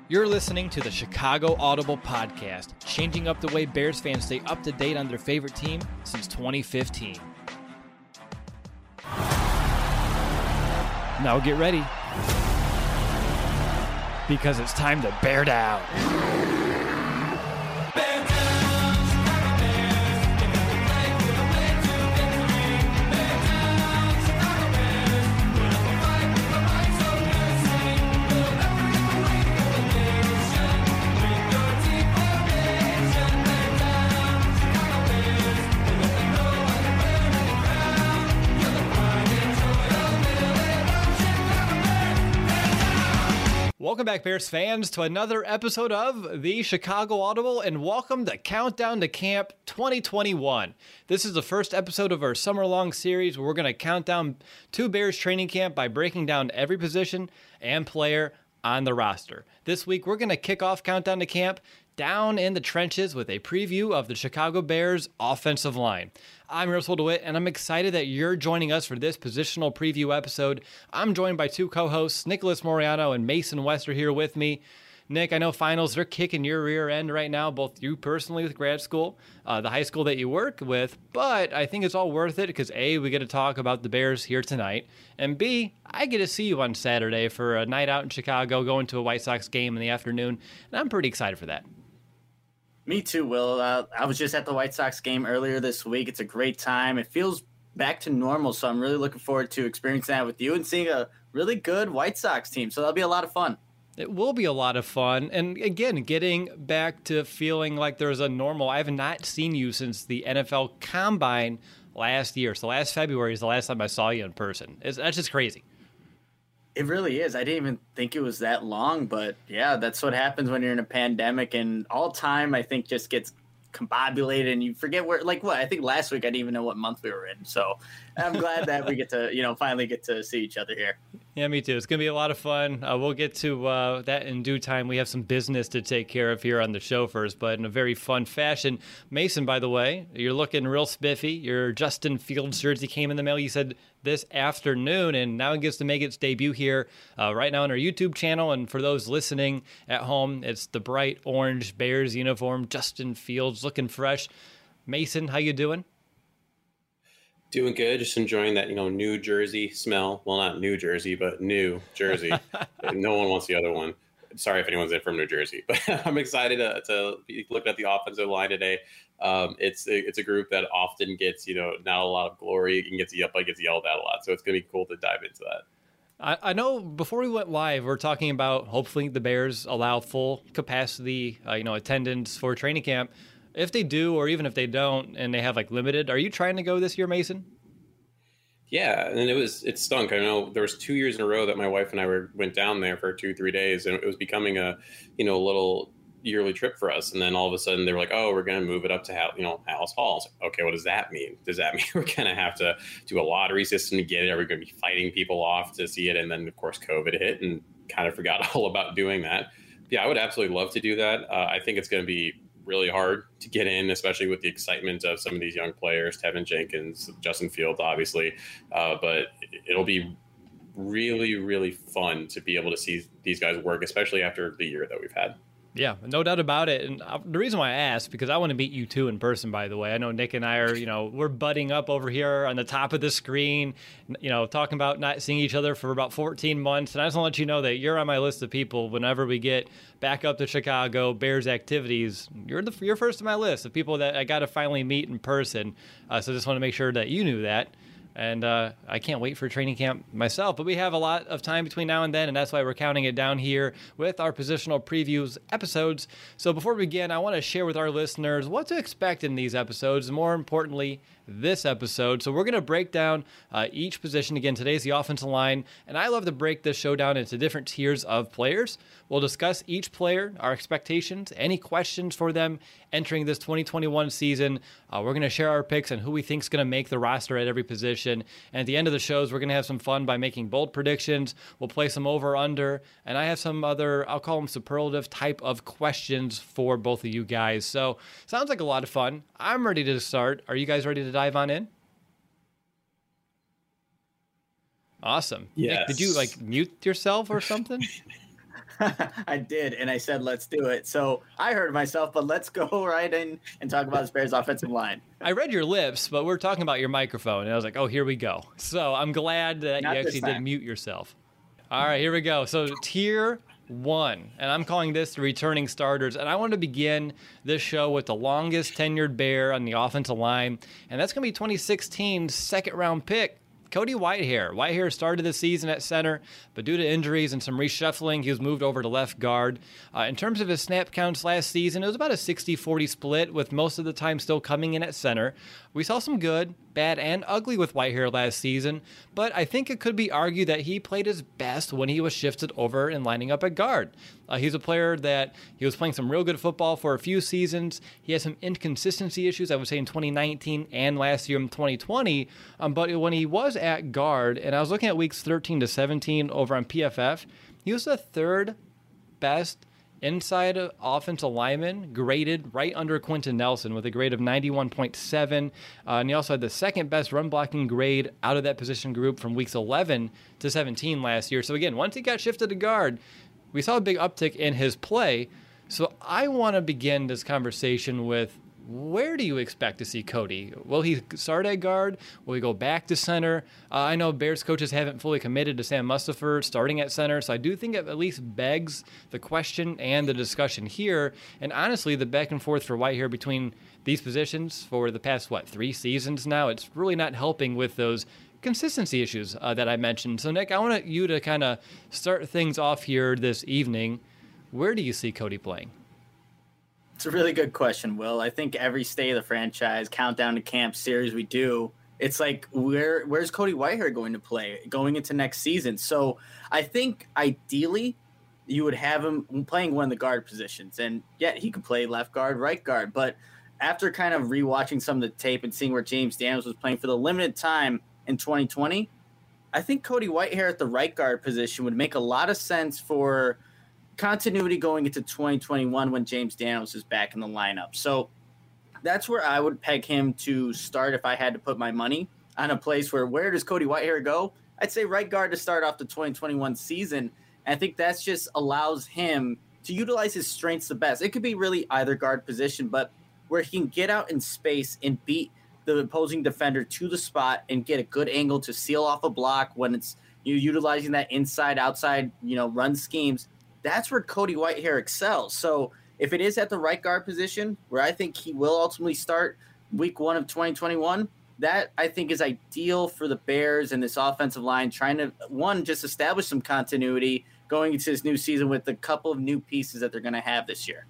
You're listening to the Chicago Audible Podcast, changing up the way Bears fans stay up to date on their favorite team since 2015. Now get ready, because it's time to bear down. Welcome back, Bears fans, to another episode of the Chicago Audible, and welcome to Countdown to Camp 2021. This is the first episode of our summer-long series where we're going to count down to Bears training camp by breaking down every position and player on the roster. This week, we're going to kick off Countdown to Camp down in the trenches with a preview of the Chicago Bears offensive line. I'm Russell DeWitt, and I'm excited that you're joining us for this positional preview episode. I'm joined by two co-hosts, Nicholas Moriano and Mason Wester, here with me. Nick, I know finals, they're kicking your rear end right now, both you personally with grad school, the high school that you work with, but I think it's all worth it because A, we get to talk about the Bears here tonight, and B, I get to see you on Saturday for a night out in Chicago, going to a White Sox game in the afternoon, and I'm pretty excited for that. Me too, Will. I was just at the White Sox game earlier this week. It's a great time. It feels back to normal, so I'm really looking forward to experiencing that with you and seeing a really good White Sox team. So that'll be a lot of fun. It will be a lot of fun. And again, getting back to feeling like there's a normal. I have not seen you since the NFL Combine last year. So last February is the last time I saw you in person. That's just crazy. It really is. I didn't even think it was that long, but yeah, that's what happens when you're in a pandemic, and all time I think just gets combobulated and you forget where, like what, I think last week I didn't even know what month we were in. So I'm glad that we get to, finally get to see each other here. Yeah, me too. It's going to be a lot of fun. We'll get to that in due time. We have some business to take care of here on the show first, but in a very fun fashion. Mason, by the way, you're looking real spiffy. Your Justin Fields jersey came in the mail, you said, this afternoon, and now it gets to make its debut here right now on our YouTube channel. And for those listening at home, it's the bright orange Bears uniform, Justin Fields, looking fresh. Mason, how you doing? Doing good. Just enjoying that, New Jersey smell. Well, not New Jersey, but New Jersey. No one wants the other one. Sorry if anyone's in from New Jersey, but I'm excited to look at the offensive line today. It's a group that often gets, not a lot of glory and gets yelled at a lot. So it's going to be cool to dive into that. I know before we went live, we're talking about hopefully the Bears allow full capacity, attendance for training camp. If they do, or even if they don't, and they have limited, are you trying to go this year, Mason? Yeah, and it stunk. I know there was 2 years in a row that my wife and I went down there for 2-3 days, and it was becoming a little yearly trip for us. And then all of a sudden they were like, "Oh, we're going to move it up to Halas Hall." I was like, okay, what does that mean? Does that mean we're going to have to do a lottery system to get it? Are we going to be fighting people off to see it? And then of course COVID hit and kind of forgot all about doing that. Yeah, I would absolutely love to do that. I think it's going to be really hard to get in, especially with the excitement of some of these young players, Tevin Jenkins, Justin Fields, obviously. But it'll be really, really fun to be able to see these guys work, especially after the year that we've had. Yeah, no doubt about it. And the reason why I asked, because I want to meet you two in person, by the way. I know Nick and I are, we're butting up over here on the top of the screen, talking about not seeing each other for about 14 months. And I just want to let you know that you're on my list of people whenever we get back up to Chicago, Bears activities. You're first on my list of people that I got to finally meet in person. So just want to make sure that you knew that. And I can't wait for training camp myself. But we have a lot of time between now and then, and that's why we're counting it down here with our positional previews episodes. So before we begin, I want to share with our listeners what to expect in these episodes, and more importantly, this episode. So we're going to break down each position. Again, today's the offensive line, and I love to break this show down into different tiers of players. We'll discuss each player, our expectations, any questions for them entering this 2021 season. We're going to share our picks on who we think is going to make the roster at every position. And at the end of the shows, we're going to have some fun by making bold predictions. We'll play some over-under, and I have some other, I'll call them superlative type of questions for both of you guys. So sounds like a lot of fun. I'm ready to start. Are you guys ready to dive on in? Awesome. Yes. Nick, did you mute yourself or something? I did, and I said, let's do it. So I heard myself, but let's go right in and talk about this Bears offensive line. I read your lips, but we're talking about your microphone, and I was like, oh, here we go. So I'm glad that Not you this actually did time. mute yourself. All right, here we go. So tier 1, and I'm calling this the returning starters, and I want to begin this show with the longest tenured Bear on the offensive line, and that's going to be 2016's second-round pick, Cody Whitehair. Whitehair started the season at center, but due to injuries and some reshuffling, he was moved over to left guard. In terms of his snap counts last season, it was about a 60-40 split, with most of the time still coming in at center. We saw some good, bad, and ugly with Whitehair last season, but I think it could be argued that he played his best when he was shifted over and lining up at guard. He's a player that he was playing some real good football for a few seasons. He had some inconsistency issues, I would say, in 2019 and last year in 2020. But when he was at guard, and I was looking at weeks 13 to 17 over on PFF, he was the third best inside offensive lineman, graded right under Quentin Nelson with a grade of 91.7. And he also had the second best run blocking grade out of that position group from weeks 11 to 17 last year. So again, once he got shifted to guard, we saw a big uptick in his play. So I want to begin this conversation with, where do you expect to see Cody? Will he start at guard? Will he go back to center? I know Bears coaches haven't fully committed to Sam Mustipher starting at center, so I do think it at least begs the question and the discussion here. And honestly, the back and forth for Whitehair between these positions for the past, 3 seasons now, it's really not helping with those consistency issues that I mentioned. So, Nick, I want you to kind of start things off here this evening. Where do you see Cody playing? It's a really good question, Will. I think every state of the franchise, countdown to camp series we do, it's like, where's Cody Whitehair going to play going into next season? So I think ideally you would have him playing one of the guard positions. And yeah, he could play left guard, right guard. But after kind of rewatching some of the tape and seeing where James Daniels was playing for the limited time in 2020, I think Cody Whitehair at the right guard position would make a lot of sense for continuity going into 2021 when James Daniels is back in the lineup. So that's where I would peg him to start if I had to put my money on a place where does Cody Whitehair go? I'd say right guard to start off the 2021 season. And I think that just allows him to utilize his strengths the best. It could be really either guard position, but where he can get out in space and beat the opposing defender to the spot and get a good angle to seal off a block when it's utilizing that inside, outside, run schemes. That's where Cody Whitehair excels. So if it is at the right guard position, where I think he will ultimately start week 1 of 2021, that I think is ideal for the Bears and this offensive line, trying to, just establish some continuity going into this new season with a couple of new pieces that they're going to have this year.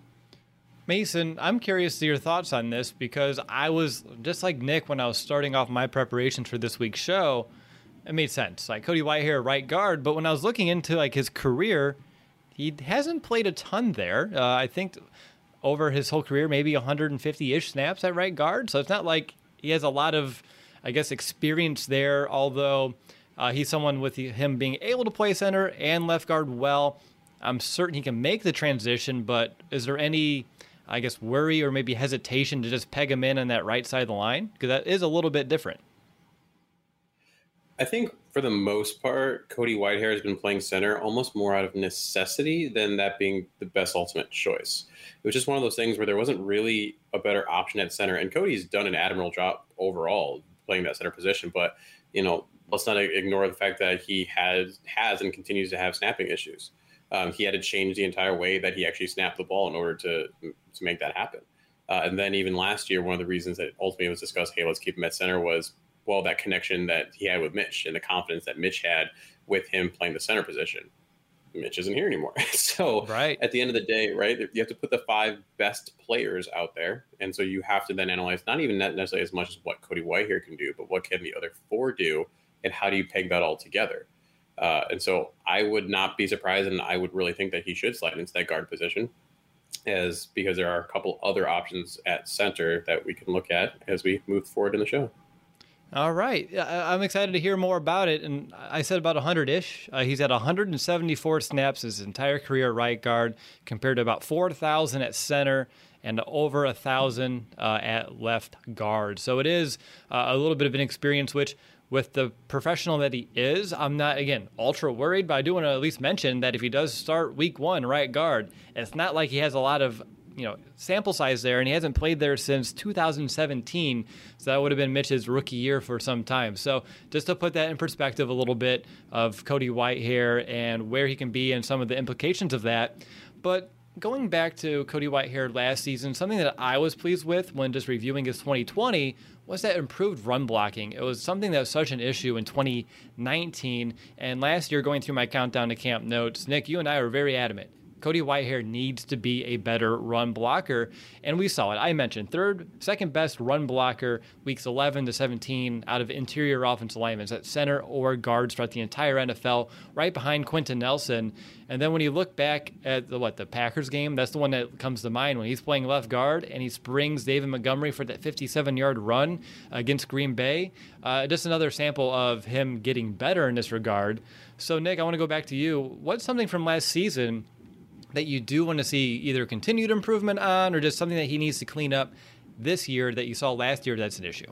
Mason, I'm curious to your thoughts on this, because I was just like Nick when I was starting off my preparations for this week's show. It made sense. Like Cody Whitehair, right guard, but when I was looking into his career, he hasn't played a ton there. I think over his whole career, maybe 150-ish snaps at right guard. So it's not like he has a lot of, experience there, although he's someone with him being able to play center and left guard well. I'm certain he can make the transition, but is there any, worry or maybe hesitation to just peg him in on that right side of the line? Because that is a little bit different. I think for the most part, Cody Whitehair has been playing center almost more out of necessity than that being the best ultimate choice. It was just one of those things where there wasn't really a better option at center. And Cody's done an admirable job overall playing that center position. But, let's not ignore the fact that he has and continues to have snapping issues. He had to change the entire way that he actually snapped the ball in order to make that happen. And then even last year, one of the reasons that ultimately was discussed, hey, let's keep him at center, was that connection that he had with Mitch and the confidence that Mitch had with him playing the center position. Mitch isn't here anymore. So right. At the end of the day, right, you have to put the 5 best players out there. And so you have to then analyze not even necessarily as much as what Cody Whitehair can do, but what can the other 4 do, and how do you peg that all together? And so I would not be surprised, and I would really think that he should slide into that guard position, because there are a couple other options at center that we can look at as we move forward in the show. All right. I'm excited to hear more about it. And I said about 100-ish. He's had 174 snaps his entire career at right guard, compared to about 4,000 at center and over 1,000 at left guard. So it is a little bit of an experience, which with the professional that he is, I'm not, again, ultra worried, but I do want to at least mention that if he does start week 1 right guard, it's not like he has a lot of sample size there, and he hasn't played there since 2017, so that would have been Mitch's rookie year for some time. So just to put that in perspective a little bit of Cody Whitehair and where he can be and some of the implications of that. But going back to Cody Whitehair last season, something that I was pleased with when just reviewing his 2020 was that improved run blocking. It was something that was such an issue in 2019, and last year going through my countdown to camp notes, Nick, you and I were very adamant. Cody Whitehair needs to be a better run blocker, and we saw it. I mentioned second best run blocker weeks 11 to 17 out of interior offensive linemen at center or guards throughout the entire NFL, right behind Quentin Nelson. And then when you look back at the Packers game, that's the one that comes to mind when he's playing left guard and he springs David Montgomery for that 57-yard run against Green Bay. Just another sample of him getting better in this regard. So, Nick, I want to go back to you. What's something from last season that you do want to see either continued improvement on or just something that he needs to clean up this year that you saw last year that's an issue?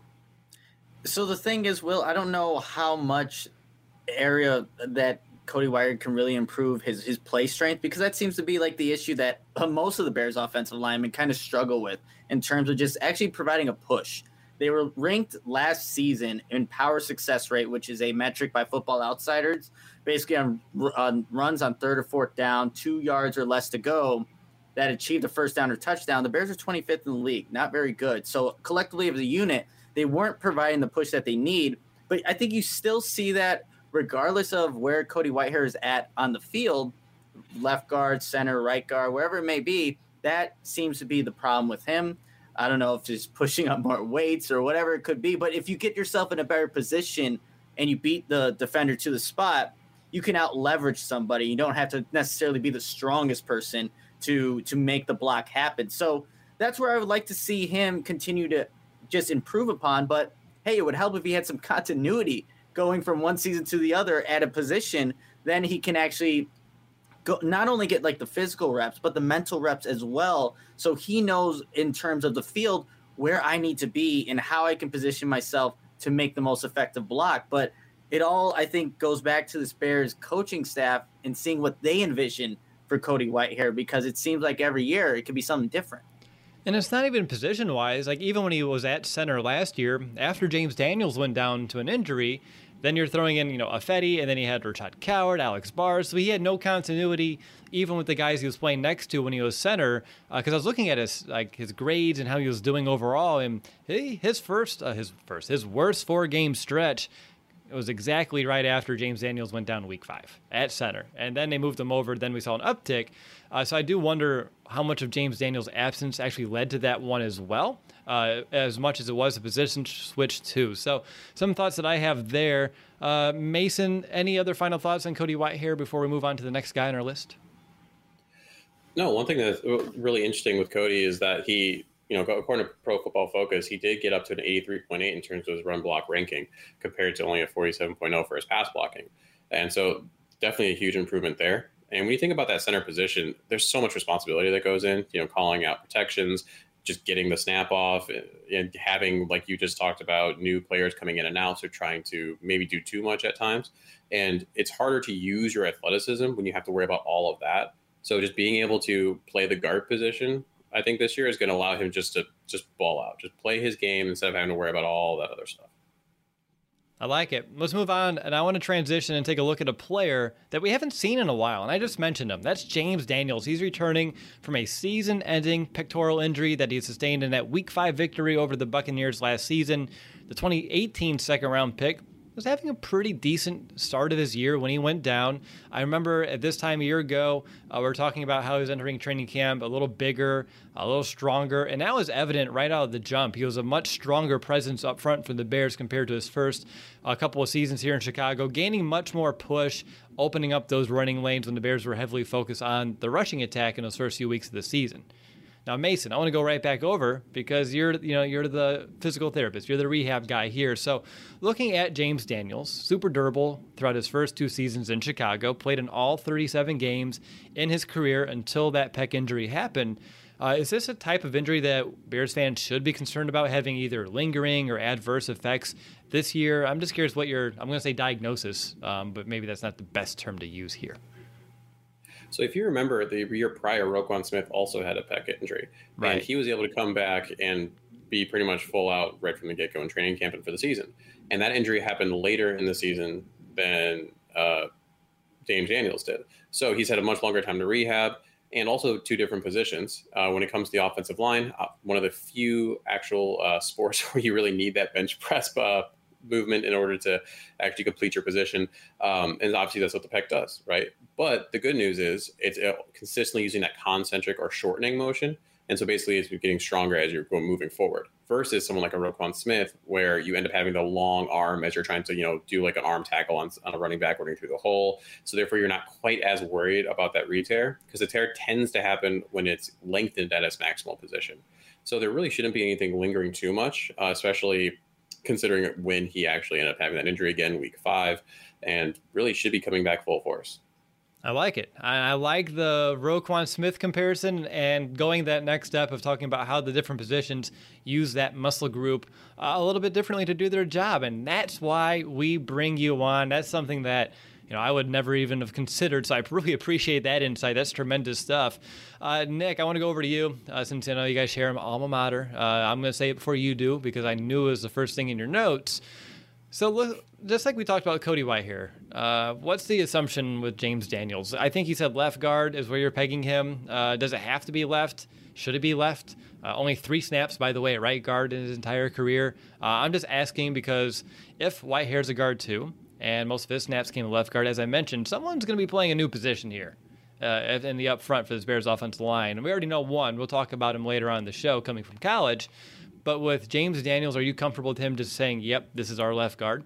So the thing is, Will, I don't know how much area that Cody Whitehair can really improve his play strength, because that seems to be like the issue that most of the Bears offensive linemen kind of struggle with in terms of just actually providing a push. They were ranked last season in power success rate, which is a metric by Football Outsiders, basically on runs on 3rd or 4th down, 2 yards or less to go, that achieved a first down or touchdown. The Bears are 25th in the league, not very good. So collectively as a unit, they weren't providing the push that they need. But I think you still see that regardless of where Cody Whitehair is at on the field, left guard, center, right guard, wherever it may be, that seems to be the problem with him. I don't know if just pushing up more weights or whatever it could be, but if you get yourself in a better position and you beat the defender to the spot, you can out leverage somebody. You don't have to necessarily be the strongest person to make the block happen. So that's where I would like to see him continue to just improve upon. But hey, it would help if he had some continuity going from one season to the other at a position. Then he can actually not only get like the physical reps, but the mental reps as well. So he knows in terms of the field where I need to be and how I can position myself to make the most effective block. But it all, I think, goes back to the Bears coaching staff and seeing what they envision for Cody Whitehair, because it seems like every year it could be something different. And it's not even position-wise. Like, even when he was at center last year, after James Daniels went down to an injury, then you're throwing in, Affetti, and then he had Rashad Coward, Alex Bars. So he had no continuity, even with the guys he was playing next to when he was center. Because I was looking at his grades and how he was doing overall, and his worst 4-game stretch, it was exactly right after James Daniels went down week 5 at center. And then they moved him over. Then we saw an uptick. So I do wonder how much of James Daniels' absence actually led to that one as well, as much as it was a position switch too. So some thoughts that I have there. Mason, any other final thoughts on Cody Whitehair before we move on to the next guy on our list? No, one thing that's really interesting with Cody is that he, according to Pro Football Focus, he did get up to an 83.8 in terms of his run block ranking compared to only a 47.0 for his pass blocking. And so definitely a huge improvement there. And when you think about that center position, there's so much responsibility that goes in, calling out protections, just getting the snap off, and having, like you just talked about, new players coming in and out, so trying to maybe do too much at times. And it's harder to use your athleticism when you have to worry about all of that. So just being able to play the guard position, I think this year is going to allow him just to ball out, just play his game instead of having to worry about all that other stuff. I like it. Let's move on, and I want to transition and take a look at a player that we haven't seen in a while, and I just mentioned him. That's James Daniels. He's returning from a season-ending pectoral injury that he sustained in that Week 5 victory over the Buccaneers last season. The 2018 second-round pick was having a pretty decent start of his year when he went down. I remember at this time a year ago, we were talking about how he was entering training camp a little bigger, a little stronger, and that was evident right out of the jump. He was a much stronger presence up front for the Bears compared to his first couple of seasons here in Chicago, gaining much more push, opening up those running lanes when the Bears were heavily focused on the rushing attack in those first few weeks of the season. Now, Mason, I want to go right back over because you're the physical therapist. You're the rehab guy here. So looking at James Daniels, super durable throughout his first 2 seasons in Chicago, played in all 37 games in his career until that pec injury happened. Is this a type of injury that Bears fans should be concerned about having either lingering or adverse effects this year? I'm just curious what I'm going to say diagnosis, but maybe that's not the best term to use here. So if you remember, the year prior, Roquan Smith also had a pec injury. Right. And he was able to come back and be pretty much full out right from the get-go in training camp and for the season. And that injury happened later in the season than James Daniels did. So he's had a much longer time to rehab, and also two different positions. When it comes to the offensive line, one of the few actual sports where you really need that bench press movement in order to actually complete your position. And obviously that's what the pec does, right? But the good news is it's consistently using that concentric or shortening motion. And so basically it's getting stronger as you're moving forward versus someone like a Roquan Smith, where you end up having the long arm as you're trying to, do like an arm tackle on a running back running through the hole. So therefore you're not quite as worried about that re-tear, because the tear tends to happen when it's lengthened at its maximal position. So there really shouldn't be anything lingering too much, especially considering when he actually ended up having that injury again, week 5, and really should be coming back full force. I like it. I like the Roquan Smith comparison and going that next step of talking about how the different positions use that muscle group a little bit differently to do their job. And that's why we bring you on. That's something that I would never even have considered. So I really appreciate that insight. That's tremendous stuff. Nick, I want to go over to you since I know you guys share an alma mater. I'm going to say it before you do because I knew it was the first thing in your notes. So look, just like we talked about Cody Whitehair, what's the assumption with James Daniels? I think he said left guard is where you're pegging him. Does it have to be left? Should it be left? Only 3 snaps, by the way, at right guard in his entire career. I'm just asking because if Whitehair's a guard too, and most of his snaps came to left guard, as I mentioned, someone's going to be playing a new position here in the up front for this Bears offensive line. And we already know one. We'll talk about him later on in the show coming from college. But with James Daniels, are you comfortable with him just saying, yep, this is our left guard?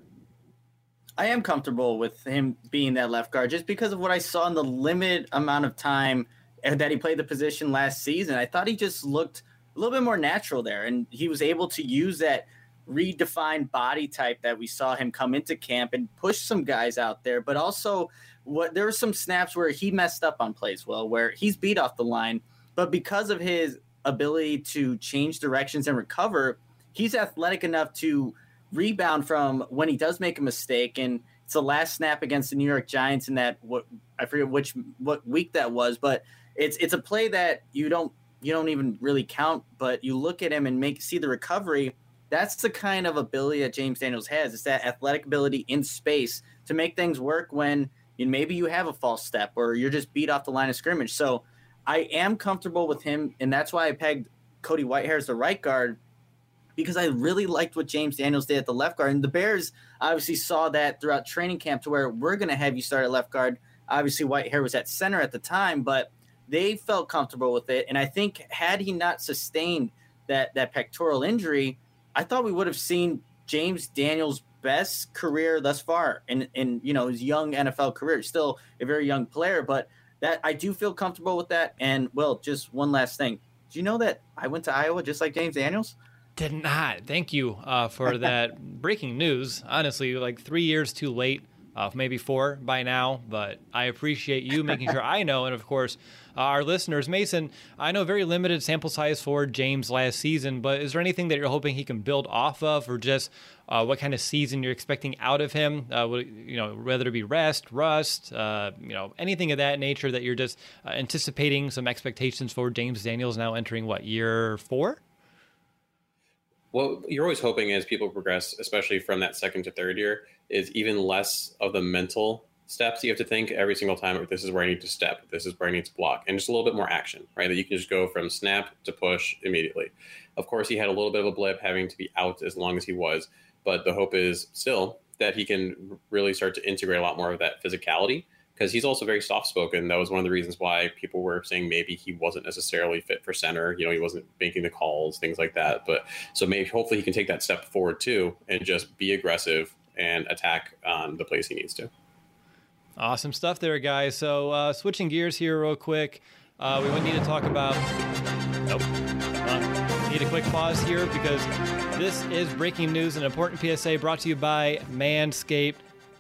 I am comfortable with him being that left guard just because of what I saw in the limited amount of time that he played the position last season. I thought he just looked a little bit more natural there, and he was able to use that redefined body type that we saw him come into camp and push some guys out there. But also there were some snaps where he messed up on plays, where he's beat off the line, but because of his ability to change directions and recover, he's athletic enough to rebound from when he does make a mistake. And it's the last snap against the New York Giants in that, I forget what week that was, but it's a play that you don't even really count, but you look at him and see the recovery. That's the kind of ability that James Daniels has. It's that athletic ability in space to make things work when maybe you have a false step or you're just beat off the line of scrimmage. So I am comfortable with him, and that's why I pegged Cody Whitehair as the right guard, because I really liked what James Daniels did at the left guard. And the Bears obviously saw that throughout training camp to where we're going to have you start at left guard. Obviously, Whitehair was at center at the time, but they felt comfortable with it. And I think had he not sustained that pectoral injury, I thought we would have seen James Daniels' best career thus far in his young NFL career. Still a very young player, but that I do feel comfortable with that. And, well, just one last thing. Do you know that I went to Iowa just like James Daniels? Did not. Thank you for that breaking news. Honestly, like 3 years too late, maybe 4 by now. But I appreciate you making sure I know. And, of course, our listeners. Mason, I know very limited sample size for James last season, but is there anything that you're hoping he can build off of, or just what kind of season you're expecting out of him? Whether it be rust, anything of that nature that you're just anticipating some expectations for James Daniels now entering year 4? Well, you're always hoping as people progress, especially from that second to third year, is even less of the mental steps you have to think every single time. This is where I need to step. This is where I need to block. And just a little bit more action, right? That you can just go from snap to push immediately. Of course, he had a little bit of a blip having to be out as long as he was. But the hope is still that he can really start to integrate a lot more of that physicality, because he's also very soft-spoken. That was one of the reasons why people were saying maybe he wasn't necessarily fit for center. He wasn't making the calls, things like that. But so maybe hopefully he can take that step forward too and just be aggressive and attack on the place he needs to. Awesome stuff there, guys. So switching gears here real quick, we would need to talk about... Nope. Need a quick pause here because this is breaking news, an important PSA brought to you by Manscaped.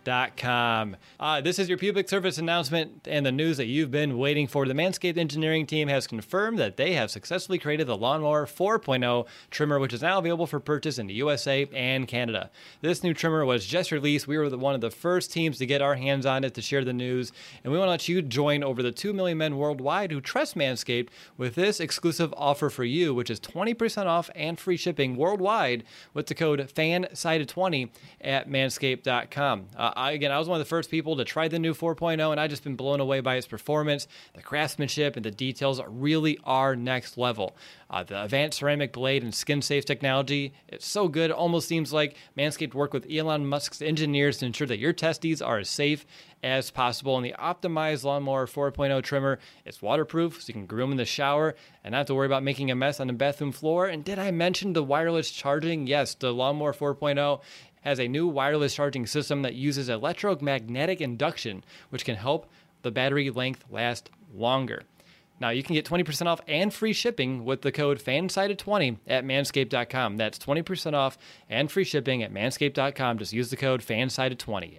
Manscaped.com. This is your public service announcement and the news that you've been waiting for. The Manscaped engineering team has confirmed that they have successfully created the Lawnmower 4.0 trimmer, which is now available for purchase in the USA and Canada. This new trimmer was just released. We were one of the first teams to get our hands on it to share the news, and we want to let you join over the 2 million men worldwide who trust Manscaped with this exclusive offer for you, which is 20% off and free shipping worldwide with the code FANSIDED20 at manscaped.com. I was one of the first people to try the new 4.0, and I've just been blown away by its performance. The craftsmanship and the details really are next level. The advanced ceramic blade and skin-safe technology, it's so good. It almost seems like Manscaped worked with Elon Musk's engineers to ensure that your testes are as safe as possible. And the optimized Lawnmower 4.0 trimmer, it's waterproof, so you can groom in the shower and not have to worry about making a mess on the bathroom floor. And did I mention the wireless charging? Yes, the Lawnmower 4.0 has a new wireless charging system that uses electromagnetic induction, which can help the battery length last longer. Now, you can get 20% off and free shipping with the code FANSIDED20 at manscaped.com. That's 20% off and free shipping at manscaped.com. Just use the code FANSIDED20,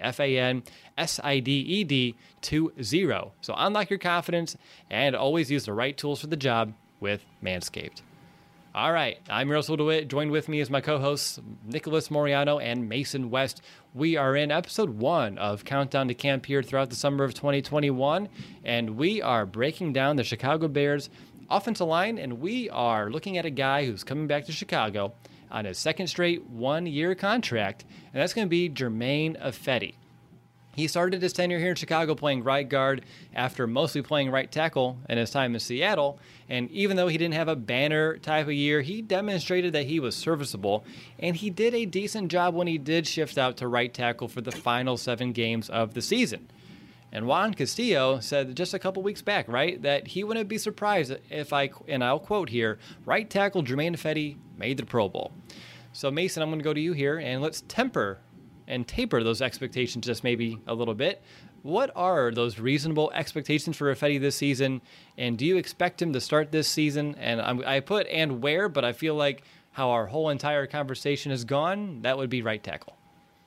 FANSIDED20. So unlock your confidence and always use the right tools for the job with Manscaped. All right, I'm Russell DeWitt. Joined with me is my co-hosts Nicholas Moriano and Mason West. We are in episode 1 of Countdown to Camp here throughout the summer of 2021, and we are breaking down the Chicago Bears offensive line, and we are looking at a guy who's coming back to Chicago on his second straight one-year contract, and that's going to be Germain Ifedi. He started his tenure here in Chicago playing right guard after mostly playing right tackle in his time in Seattle. And even though he didn't have a banner type of year, he demonstrated that he was serviceable. And he did a decent job when he did shift out to right tackle for the final 7 games of the season. And Juan Castillo said just a couple weeks back, right, that he wouldn't be surprised if and I'll quote here, right tackle Germain Ifedi made the Pro Bowl. So Mason, I'm going to go to you here, and let's taper those expectations just maybe a little bit. What are those reasonable expectations for Ifedi this season? And do you expect him to start this season? And I put and where, but I feel like how our whole entire conversation has gone, that would be right tackle.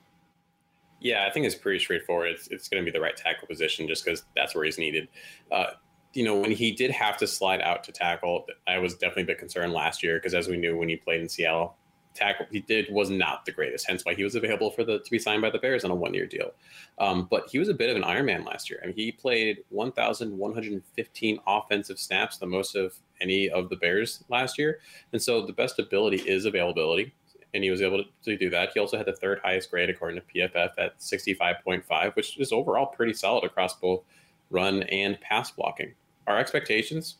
Yeah, I think it's pretty straightforward. It's going to be the right tackle position just because that's where he's needed. When he did have to slide out to tackle, I was definitely a bit concerned last year because as we knew when he played in Seattle, tackle was not the greatest, hence why he was available to be signed by the Bears on a 1-year deal. But he was a bit of an Iron Man last year. I mean, he played 1,115 offensive snaps, the most of any of the Bears last year. And so the best ability is availability, and he was able to do that. He also had the 3rd highest grade according to PFF at 65.5, which is overall pretty solid across both run and pass blocking. Our expectations,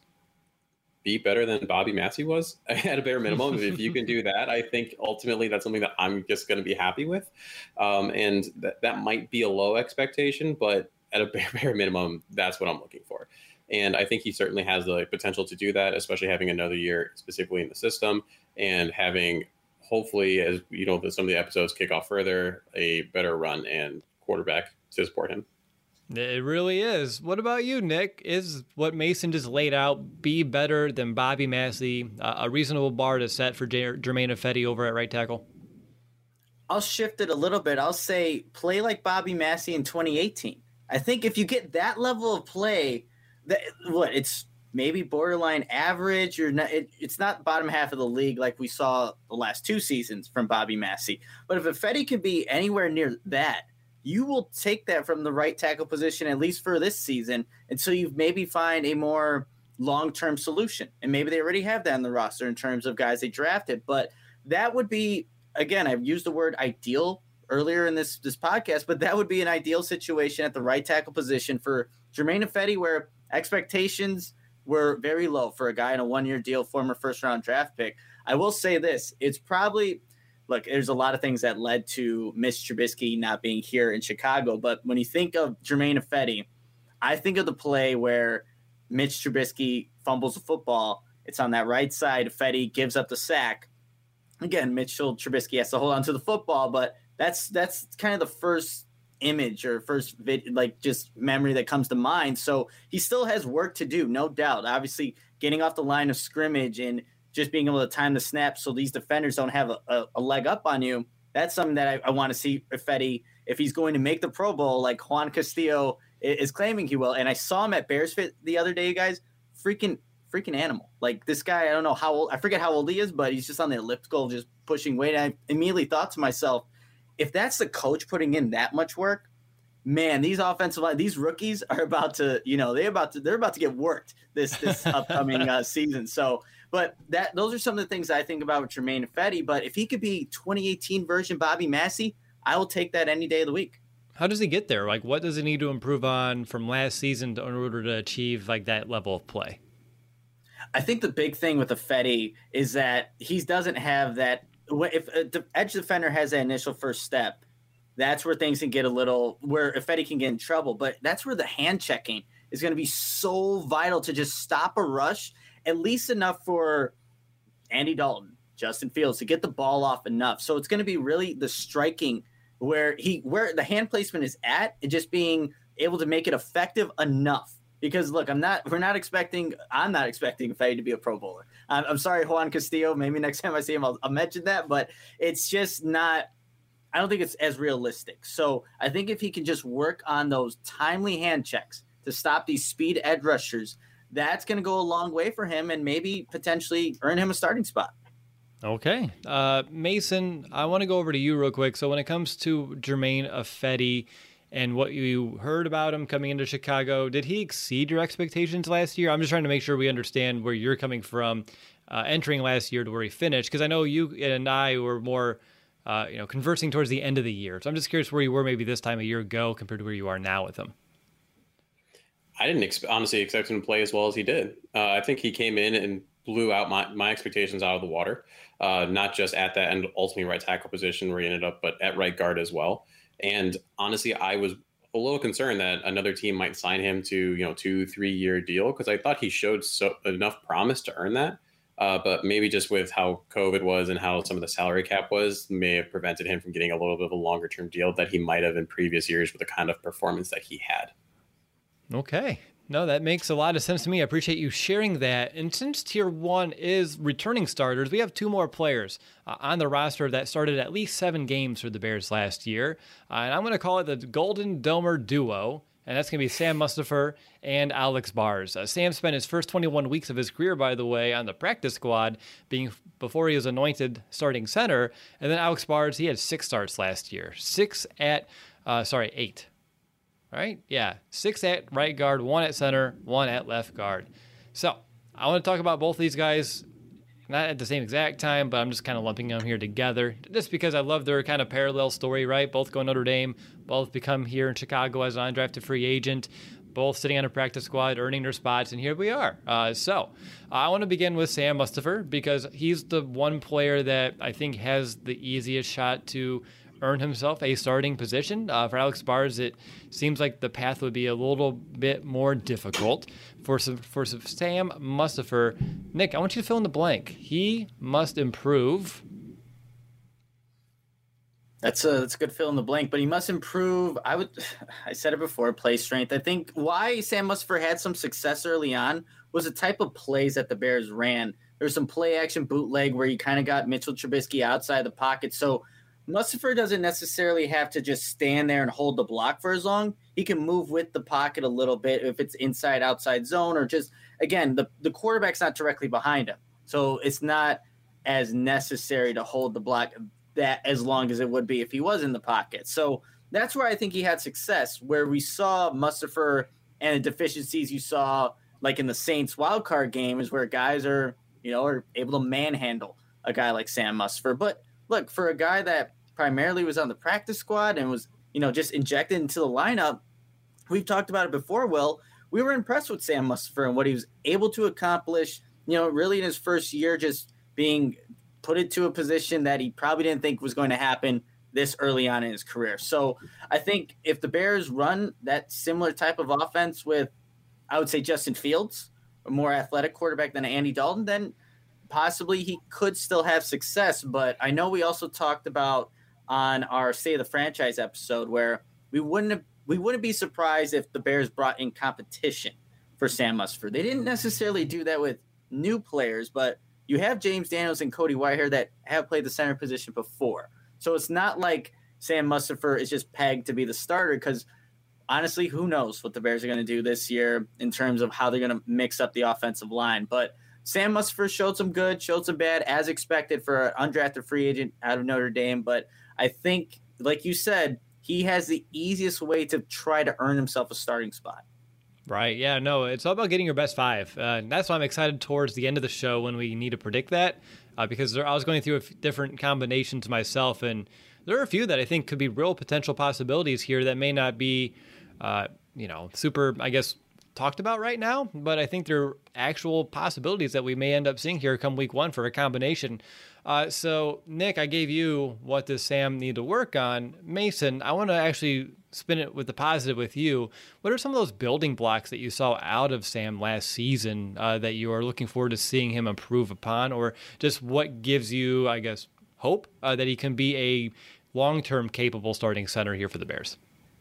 be better than Bobby Massey was at a bare minimum. If you can do that, I think ultimately that's something that I'm just going to be happy with. And that might be a low expectation, but at a bare minimum, that's what I'm looking for. And I think he certainly has the potential to do that, especially having another year specifically in the system and having hopefully, as you know, some of the episodes kick off further, a better run and quarterback to support him. It really is. What about you, Nick? Is what Mason just laid out be better than Bobby Massey, a reasonable bar to set for Germain Ifedi over at right tackle? I'll shift it a little bit. I'll say play like Bobby Massey in 2018. I think if you get that level of play, it's maybe borderline average or not. It's not bottom half of the league like we saw the last 2 seasons from Bobby Massey. But if Ifedi could be anywhere near that, you will take that from the right tackle position, at least for this season, until you maybe find a more long-term solution. And maybe they already have that on the roster in terms of guys they drafted. But that would be, again, I've used the word ideal earlier in this podcast, but that would be an ideal situation at the right tackle position for Germain Ifedi, where expectations were very low for a guy in a 1-year deal, former first-round draft pick. I will say this. It's probably – look, there's a lot of things that led to Mitch Trubisky not being here in Chicago. But when you think of Germain Ifedi, I think of the play where Mitch Trubisky fumbles the football. It's on that right side. Ifedi gives up the sack. Again, Mitchell Trubisky has to hold on to the football, but that's kind of the first image or first just memory that comes to mind. So he still has work to do, no doubt. Obviously, getting off the line of scrimmage and just being able to time the snap so these defenders don't have a leg up on you, that's something that I want to see Ifedi if he's going to make the Pro Bowl like Juan Castillo is claiming he will. And I saw him at Bears Fit the other day, you guys. Freaking animal. Like this guy, I don't know how old, I forget how old he is, but he's just on the elliptical, just pushing weight. And I immediately thought to myself, if that's the coach putting in that much work, man, these offensive line, these rookies are about to, they're about to get worked this upcoming season. So, but those are some of the things I think about with Germain Ifedi. But if he could be 2018 version Bobby Massey, I will take that any day of the week. How does he get there? Like, what does he need to improve on from last season in order to achieve like that level of play? I think the big thing with Ifedi is that he doesn't have that. If the edge defender has that initial first step, that's where things can get where Ifedi can get in trouble. But that's where the hand checking is going to be so vital to just stop a rush, at least enough for Andy Dalton, Justin Fields to get the ball off enough. So it's going to be really the striking where the hand placement is at, and just being able to make it effective enough. Because look, I'm not expecting Ifedi to be a Pro Bowler. I'm sorry, Juan Castillo. Maybe next time I see him, I'll mention that. But it's just not. I don't think it's as realistic. So I think if he can just work on those timely hand checks to stop these speed edge rushers, that's going to go a long way for him and maybe potentially earn him a starting spot. Okay. Mason, I want to go over to you real quick. So when it comes to Germain Ifedi and what you heard about him coming into Chicago, did he exceed your expectations last year? I'm just trying to make sure we understand where you're coming from entering last year to where he finished, because I know you and I were more conversing towards the end of the year. So I'm just curious where you were maybe this time a year ago compared to where you are now with him. I didn't honestly expect him to play as well as he did. I think he came in and blew out my expectations out of the water, not just at that end, ultimately right tackle position where he ended up, but at right guard as well. And honestly, I was a little concerned that another team might sign him to 2-3 year deal, because I thought he showed enough promise to earn that. But maybe just with how COVID was and how some of the salary cap was, may have prevented him from getting a little bit of a longer term deal that he might have in previous years with the kind of performance that he had. Okay. No, that makes a lot of sense to me. I appreciate you sharing that. And since Tier 1 is returning starters, we have two more players on the roster that started at least 7 games for the Bears last year. And I'm going to call it the Golden Domer Duo. And that's going to be Sam Mustipher and Alex Bars. Sam spent his first 21 weeks of his career, by the way, on the practice squad, before he was anointed starting center. And then Alex Bars, he had 6 starts last year. 8. Right? Yeah. 6 at right guard, 1 at center, 1 at left guard. So I want to talk about both these guys, not at the same exact time, but I'm just kind of lumping them here together just because I love their kind of parallel story, right? Both go Notre Dame, both become here in Chicago as an undrafted free agent, both sitting on a practice squad, earning their spots, and here we are. So I want to begin with Sam Mustipher because he's the one player that I think has the easiest shot to earn himself a starting position. For Alex Bars, it seems like the path would be a little bit more difficult. For Sam Mustipher, Nick, I want you to fill in the blank. He must improve. That's a good fill in the blank, but he must improve. I said it before, play strength. I think why Sam Mustipher had some success early on was the type of plays that the Bears ran. There's some play action bootleg where you kind of got Mitchell Trubisky outside the pocket. So Mustipher doesn't necessarily have to just stand there and hold the block for as long. He can move with the pocket a little bit if it's inside, outside zone, or just, again, the quarterback's not directly behind him. So it's not as necessary to hold the block that as long as it would be if he was in the pocket. So that's where I think he had success, where we saw Mustipher and the deficiencies you saw like in the Saints wildcard game is where guys are able to manhandle a guy like Sam Mustipher. But look, for a guy that primarily was on the practice squad and was, just injected into the lineup, we've talked about it before, Will. We were impressed with Sam Mustipher and what he was able to accomplish, really in his first year, just being put into a position that he probably didn't think was going to happen this early on in his career. So I think if the Bears run that similar type of offense with, I would say, Justin Fields, a more athletic quarterback than Andy Dalton, then possibly he could still have success. But I know we also talked about on our State of the Franchise episode where we wouldn't be surprised if the Bears brought in competition for Sam Mustipher. They didn't necessarily do that with new players, but you have James Daniels and Cody Whitehair that have played the center position before. So it's not like Sam Mustipher is just pegged to be the starter because honestly, who knows what the Bears are going to do this year in terms of how they're going to mix up the offensive line. But Sam Mustipher showed some good, showed some bad, as expected for an undrafted free agent out of Notre Dame. But I think, like you said, he has the easiest way to try to earn himself a starting spot. Right. Yeah, no, it's all about getting your best five. And that's why I'm excited towards the end of the show when we need to predict that, because I was going through different combinations myself, and there are a few that I think could be real potential possibilities here that may not be, super, I guess, talked about right now, but I think there are actual possibilities that we may end up seeing here come week one for a combination. So, Nick, I gave you what does Sam need to work on. Mason, I want to actually spin it with the positive with you. What are some of those building blocks that you saw out of Sam last season that you are looking forward to seeing him improve upon, or just what gives you, I guess, hope that he can be a long-term capable starting center here for the Bears?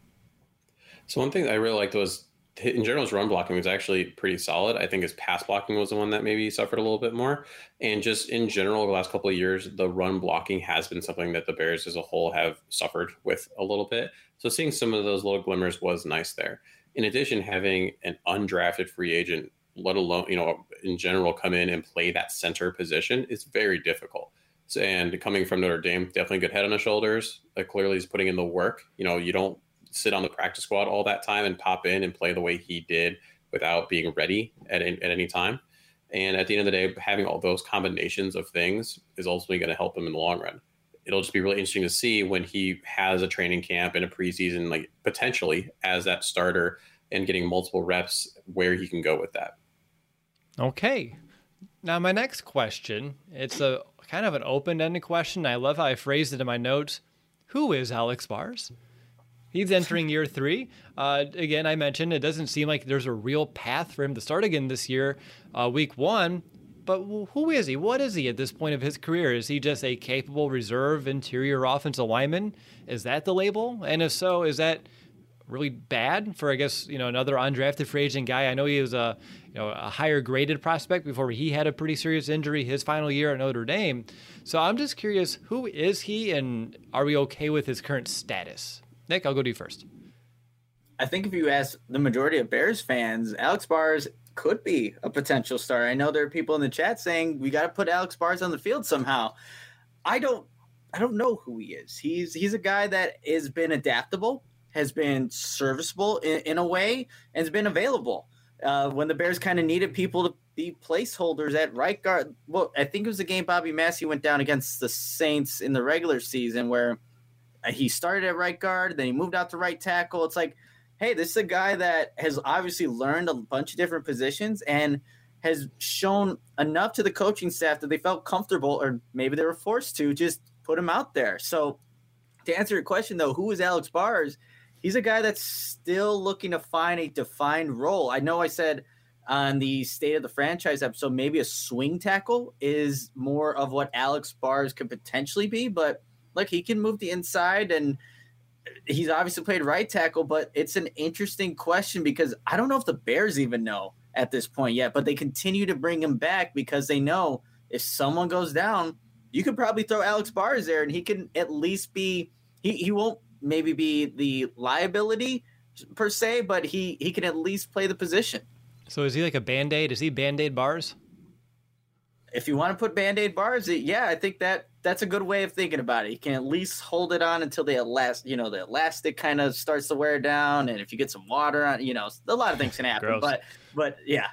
So one thing that I really liked was, in general, his run blocking was actually pretty solid. I think his pass blocking was the one that maybe suffered a little bit more. And just in general, over the last couple of years, the run blocking has been something that the Bears as a whole have suffered with a little bit. So seeing some of those little glimmers was nice there. In addition, having an undrafted free agent, let alone, in general, come in and play that center position is very difficult. So, and coming from Notre Dame, definitely good head on his shoulders. Clearly he's putting in the work. You don't sit on the practice squad all that time and pop in and play the way he did without being ready at any time. And at the end of the day, having all those combinations of things is ultimately going to help him in the long run. It'll just be really interesting to see when he has a training camp and a preseason, like potentially as that starter and getting multiple reps, where he can go with that. Okay. Now, my next question, it's a kind of an open-ended question. I love how I phrased it in my notes. Who is Alex Bars? He's entering year 3. Again, I mentioned it doesn't seem like there's a real path for him to start again this year, week 1. But who is he? What is he at this point of his career? Is he just a capable reserve interior offensive lineman? Is that the label? And if so, is that really bad for, I guess, another undrafted free agent guy? I know he was a higher graded prospect before he had a pretty serious injury his final year at Notre Dame. So I'm just curious, who is he, and are we okay with his current status? Nick, I'll go to you first. I think if you ask the majority of Bears fans, Alex Bars could be a potential starter. I know there are people in the chat saying we got to put Alex Bars on the field somehow. I don't know who he is. He's a guy that has been adaptable, has been serviceable in a way, and has been available. When the Bears kind of needed people to be placeholders at right guard. Well, I think it was the game Bobby Massey went down against the Saints in the regular season where he started at right guard, then he moved out to right tackle. It's like, hey, this is a guy that has obviously learned a bunch of different positions and has shown enough to the coaching staff that they felt comfortable, or maybe they were forced to just put him out there. So to answer your question, though, who is Alex Bars? He's a guy that's still looking to find a defined role. I know I said on the State of the Franchise episode, maybe a swing tackle is more of what Alex Bars could potentially be, but look, he can move the inside, and he's obviously played right tackle, but it's an interesting question because I don't know if the Bears even know at this point yet, but they continue to bring him back because they know if someone goes down, you could probably throw Alex Bars there and he can at least be, he won't maybe be the liability per se, but he can at least play the position. So is he like a Band-Aid? Is he Band-Aid Bars? If you want to put Band-Aid Bars, yeah, I think that's a good way of thinking about it. You can at least hold it on until the elastic kind of starts to wear down, and if you get some water on, a lot of things can happen. but yeah.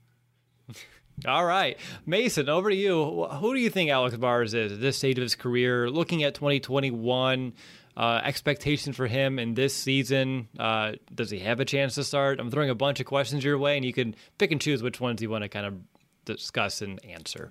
All right, Mason, over to you. Who do you think Alex Bars is at this stage of his career? Looking at 2021, expectation for him in this season. Does he have a chance to start? I'm throwing a bunch of questions your way, and you can pick and choose which ones you want to kind of discuss and answer.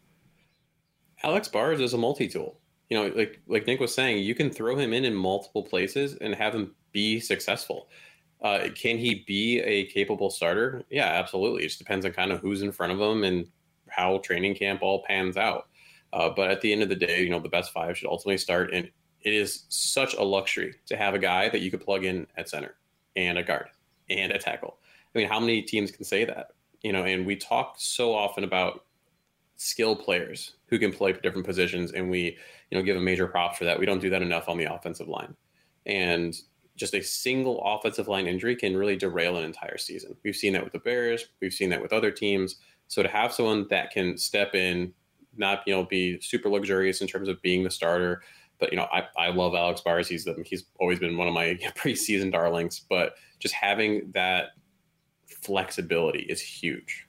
Alex Bars is a multi-tool. Like Nick was saying, you can throw him in multiple places and have him be successful. Can he be a capable starter? Yeah, absolutely. It just depends on kind of who's in front of him and how training camp all pans out. But at the end of the day, the best 5 should ultimately start. And it is such a luxury to have a guy that you could plug in at center and a guard and a tackle. I mean, how many teams can say that? And we talk so often about skill players who can play different positions, and we, give a major props for that. We don't do that enough on the offensive line, and just a single offensive line injury can really derail an entire season. We've seen that with the Bears. We've seen that with other teams. So to have someone that can step in, not be super luxurious in terms of being the starter, but I love Alex Bars. He's always been one of my preseason darlings. But just having that flexibility is huge.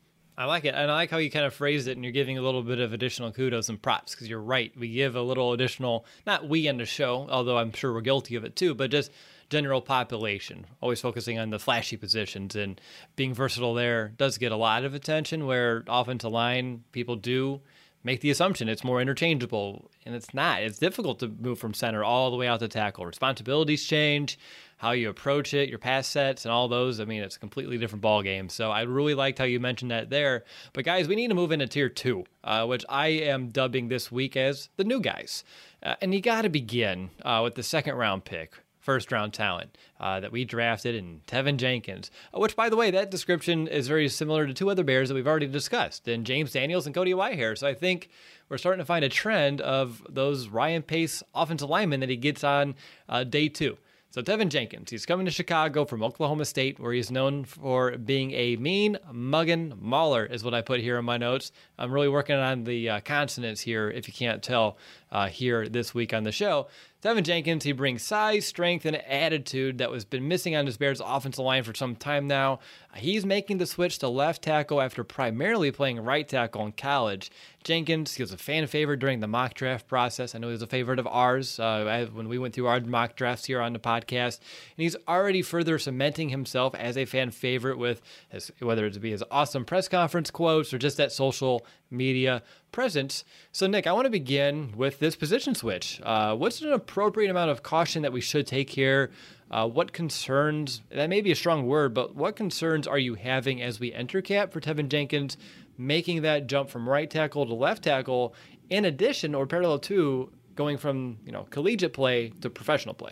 I like it. And I like how you kind of phrased it, and you're giving a little bit of additional kudos and props, because you're right. We give a little additional, not we in the show, although I'm sure we're guilty of it too, but just general population, always focusing on the flashy positions, and being versatile there does get a lot of attention, where offensive line people do make the assumption it's more interchangeable, and it's not. It's difficult to move from center all the way out to tackle. Responsibilities change, how you approach it, your pass sets, and all those. I mean, it's a completely different ball game. So I really liked how you mentioned that there. But guys, we need to move into tier 2, which I am dubbing this week as the new guys. And you got to begin with the second round pick, first round talent that we drafted in Tevin Jenkins, which, by the way, that description is very similar to 2 other Bears that we've already discussed, in James Daniels and Cody Whitehair. So I think we're starting to find a trend of those Ryan Pace offensive linemen that he gets on day 2. So Tevin Jenkins, he's coming to Chicago from Oklahoma State, where he's known for being a mean mugging mauler, is what I put here in my notes. I'm really working on the consonants here, if you can't tell, here this week on the show. Tevin Jenkins, he brings size, strength, and attitude that was been missing on this Bears offensive line for some time now. He's making the switch to left tackle after primarily playing right tackle in college. Jenkins, he was a fan favorite during the mock draft process. I know he was a favorite of ours when we went through our mock drafts here on the podcast. And he's already further cementing himself as a fan favorite with whether it be his awesome press conference quotes or just that social media presence. So, Nick, I want to begin with this position switch. What's an appropriate amount of caution that we should take here? What concerns, that may be a strong word, but what concerns are you having as we enter camp for Tevin Jenkins making that jump from right tackle to left tackle, in addition or parallel to going from collegiate play to professional play?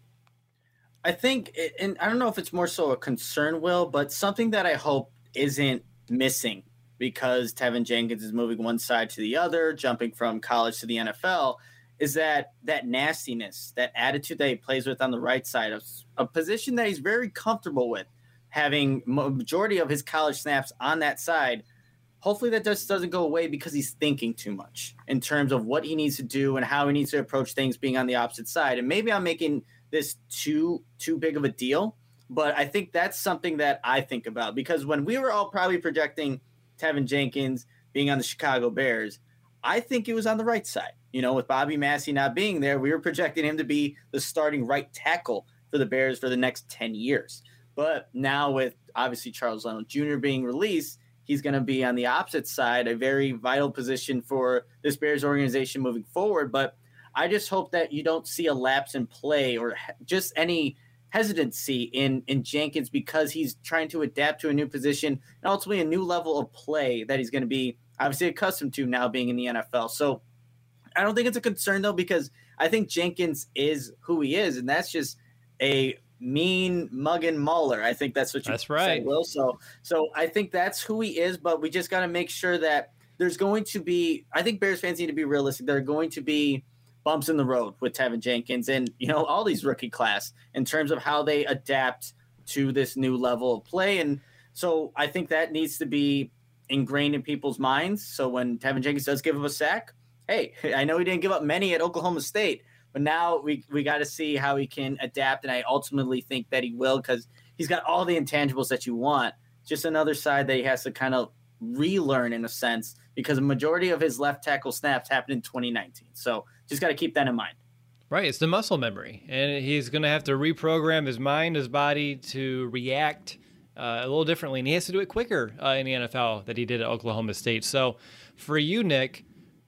I think, and I don't know if it's more so a concern, Will, but something that I hope isn't missing because Tevin Jenkins is moving one side to the other, jumping from college to the NFL, is that nastiness, that attitude that he plays with on the right side of a position that he's very comfortable with, having majority of his college snaps on that side. Hopefully that just doesn't go away because he's thinking too much in terms of what he needs to do and how he needs to approach things being on the opposite side. And maybe I'm making this too big of a deal, but I think that's something that I think about, because when we were all probably projecting Tevin Jenkins being on the Chicago Bears, I think it was on the right side. With Bobby Massey not being there, we were projecting him to be the starting right tackle for the Bears for the next 10 years. But now with obviously Charles Leno Jr. being released, he's going to be on the opposite side, a very vital position for this Bears organization moving forward. But I just hope that you don't see a lapse in play or just any hesitancy in Jenkins, because he's trying to adapt to a new position and ultimately a new level of play that he's going to be obviously accustomed to now being in the NFL. So I don't think it's a concern, though, because I think Jenkins is who he is, and that's just a mean mugging mauler. I think that's what you said, Will. So I think that's who he is, but we just got to make sure that there's going to be – I think Bears fans need to be realistic. There are going to be bumps in the road with Tevin Jenkins and, all these rookie class in terms of how they adapt to this new level of play. And so I think that needs to be ingrained in people's minds. So when Tevin Jenkins does give him a sack, hey, I know he didn't give up many at Oklahoma State, but now we got to see how he can adapt, and I ultimately think that he will, because he's got all the intangibles that you want. Just another side that he has to kind of relearn in a sense, because a majority of his left tackle snaps happened in 2019. So just got to keep that in mind. Right, it's the muscle memory, and he's going to have to reprogram his mind, his body to react a little differently, and he has to do it quicker in the NFL than he did at Oklahoma State. So for you, Nick,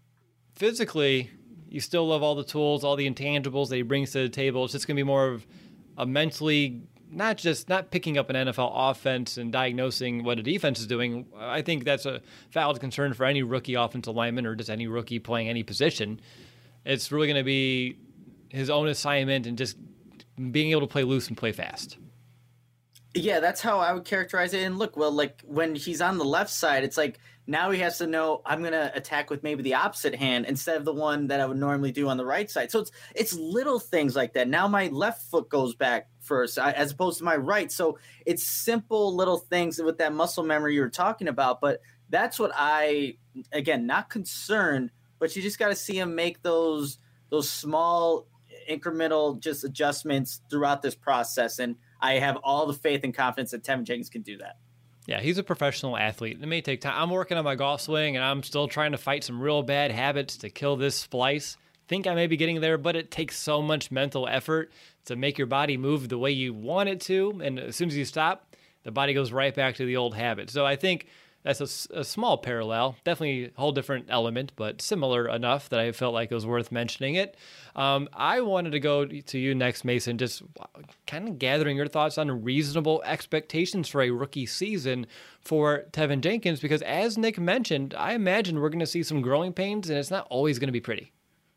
physically, you still love all the tools, all the intangibles that he brings to the table. It's just going to be more of a mentally, not picking up an NFL offense and diagnosing what a defense is doing. I think that's a valid concern for any rookie offensive lineman or just any rookie playing any position. It's really going to be his own assignment and just being able to play loose and play fast. Yeah, that's how I would characterize it. And look, well, like when he's on the left side, it's like now he has to know I'm going to attack with maybe the opposite hand instead of the one that I would normally do on the right side. So it's little things like that. Now my left foot goes back first as opposed to my right. So it's simple little things with that muscle memory you were talking about. But that's what again, not concerned, but you just got to see him make those small incremental just adjustments throughout this process. And I have all the faith and confidence that Tevin Jenkins can do that. Yeah, he's a professional athlete. It may take time. I'm working on my golf swing, and I'm still trying to fight some real bad habits to kill this splice. Think I may be getting there, but it takes so much mental effort to make your body move the way you want it to. And as soon as you stop, the body goes right back to the old habit. So I think that's a small parallel, definitely a whole different element, but similar enough that I felt like it was worth mentioning it. I wanted to go to you next, Mason, just kind of gathering your thoughts on reasonable expectations for a rookie season for Tevin Jenkins, because as Nick mentioned, I imagine we're going to see some growing pains, and it's not always going to be pretty.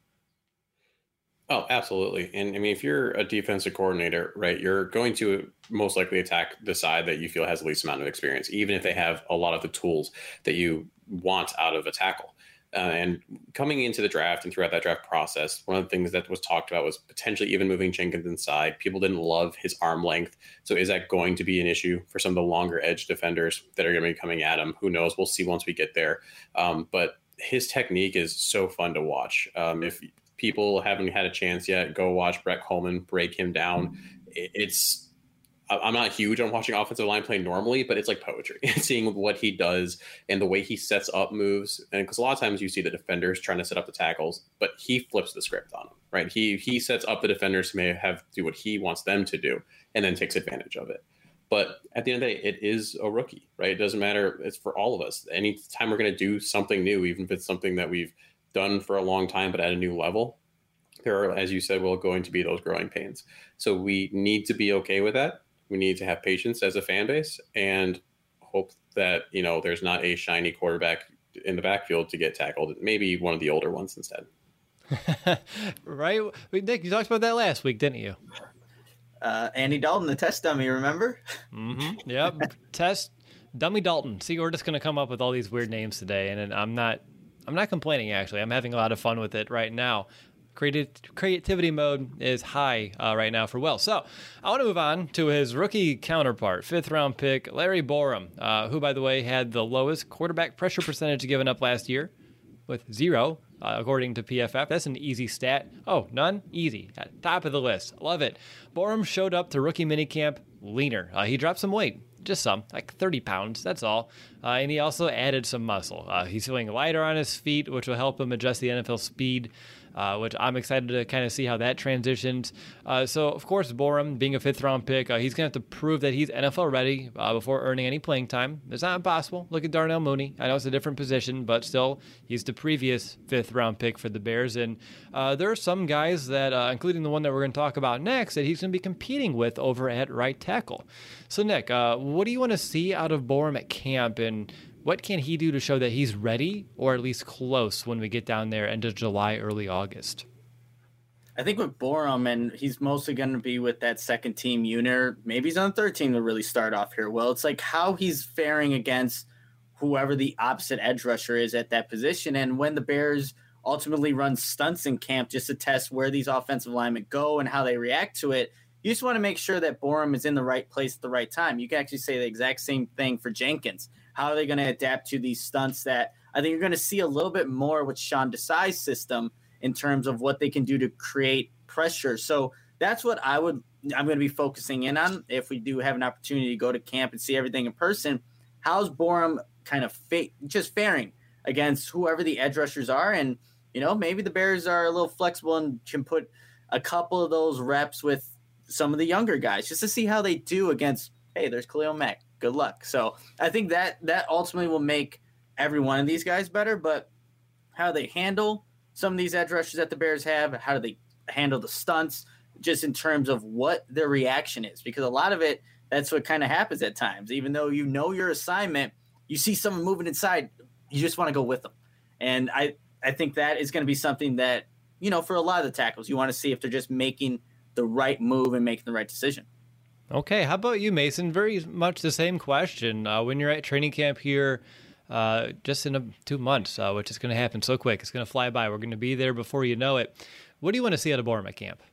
Oh, absolutely. And I mean, if you're a defensive coordinator, right, you're going to most likely attack the side that you feel has the least amount of experience, even if they have a lot of the tools that you want out of a tackle. And coming into the draft and throughout that draft process, one of the things that was talked about was potentially even moving Jenkins inside. People didn't love his arm length. So is that going to be an issue for some of the longer edge defenders that are going to be coming at him? Who knows? We'll see once we get there. But his technique is so fun to watch. If people haven't had a chance yet, go watch Brett Coleman break him down. I'm not huge on watching offensive line play normally, but it's like poetry. Seeing what he does and the way he sets up moves. And because a lot of times you see the defenders trying to set up the tackles, but he flips the script on them, right? He sets up the defenders who may have to do what he wants them to do and then takes advantage of it. But at the end of the day, it is a rookie, right? It doesn't matter. It's for all of us. Anytime we're going to do something new, even if it's something that we've done for a long time, but at a new level, there are, as you said, going to be those growing pains. So we need to be okay with that. We need to have patience as a fan base and hope that, there's not a shiny quarterback in the backfield to get tackled. Maybe one of the older ones instead. Right? Nick, you talked about that last week, didn't you? Andy Dalton, the test dummy, remember? Mm-hmm. Yep. Test dummy Dalton. See, we're just going to come up with all these weird names today, and I'm not complaining, actually. I'm having a lot of fun with it right now. Creativity mode is high right now for Will. So I want to move on to his rookie counterpart, 5th-round pick, Larry Borom, who, by the way, had the lowest quarterback pressure percentage given up last year with 0, according to PFF. That's an easy stat. Oh, none? Easy. At top of the list. Love it. Borom showed up to rookie minicamp leaner. He dropped some weight. Just some, like 30 pounds, that's all. And he also added some muscle. He's feeling lighter on his feet, which will help him adjust the NFL speed, which I'm excited to kind of see how that transitions. So, of course, Borom, being a 5th-round pick, he's going to have to prove that he's NFL ready before earning any playing time. It's not impossible. Look at Darnell Mooney. I know it's a different position, but still, he's the previous 5th-round pick for the Bears. And there are some guys that, including the one that we're going to talk about next, that he's going to be competing with over at right tackle. So, Nick, what do you want to see out of Borom at camp, and what can he do to show that he's ready, or at least close, when we get down there end of July, early August? I think with Borom, and he's mostly going to be with that second team unit. Maybe he's on the third team to really start off here. Well, it's like how he's faring against whoever the opposite edge rusher is at that position. And when the Bears ultimately run stunts in camp just to test where these offensive linemen go and how they react to it, you just want to make sure that Borom is in the right place at the right time. You can actually say the exact same thing for Jenkins. How are they going to adapt to these stunts that I think you're going to see a little bit more with Sean Desai's system in terms of what they can do to create pressure. So that's what I'm going to be focusing in on if we do have an opportunity to go to camp and see everything in person. How's Borom kind of just faring against whoever the edge rushers are? And, maybe the Bears are a little flexible and can put a couple of those reps with some of the younger guys just to see how they do against, hey, there's Khalil Mack. Good luck. So I think that ultimately will make every one of these guys better, but how they handle some of these edge rushers that the Bears have, how do they handle the stunts, just in terms of what their reaction is, because a lot of it, that's what kind of happens at times. Even though your assignment, you see someone moving inside, you just want to go with them. And I think that is going to be something that, for a lot of the tackles, you want to see if they're just making the right move and making the right decision. Okay, how about you, Mason? Very much the same question. When you're at training camp here, just in 2 months, which is going to happen so quick, it's going to fly by. We're going to be there before you know it. What do you want to see out of Borum at camp?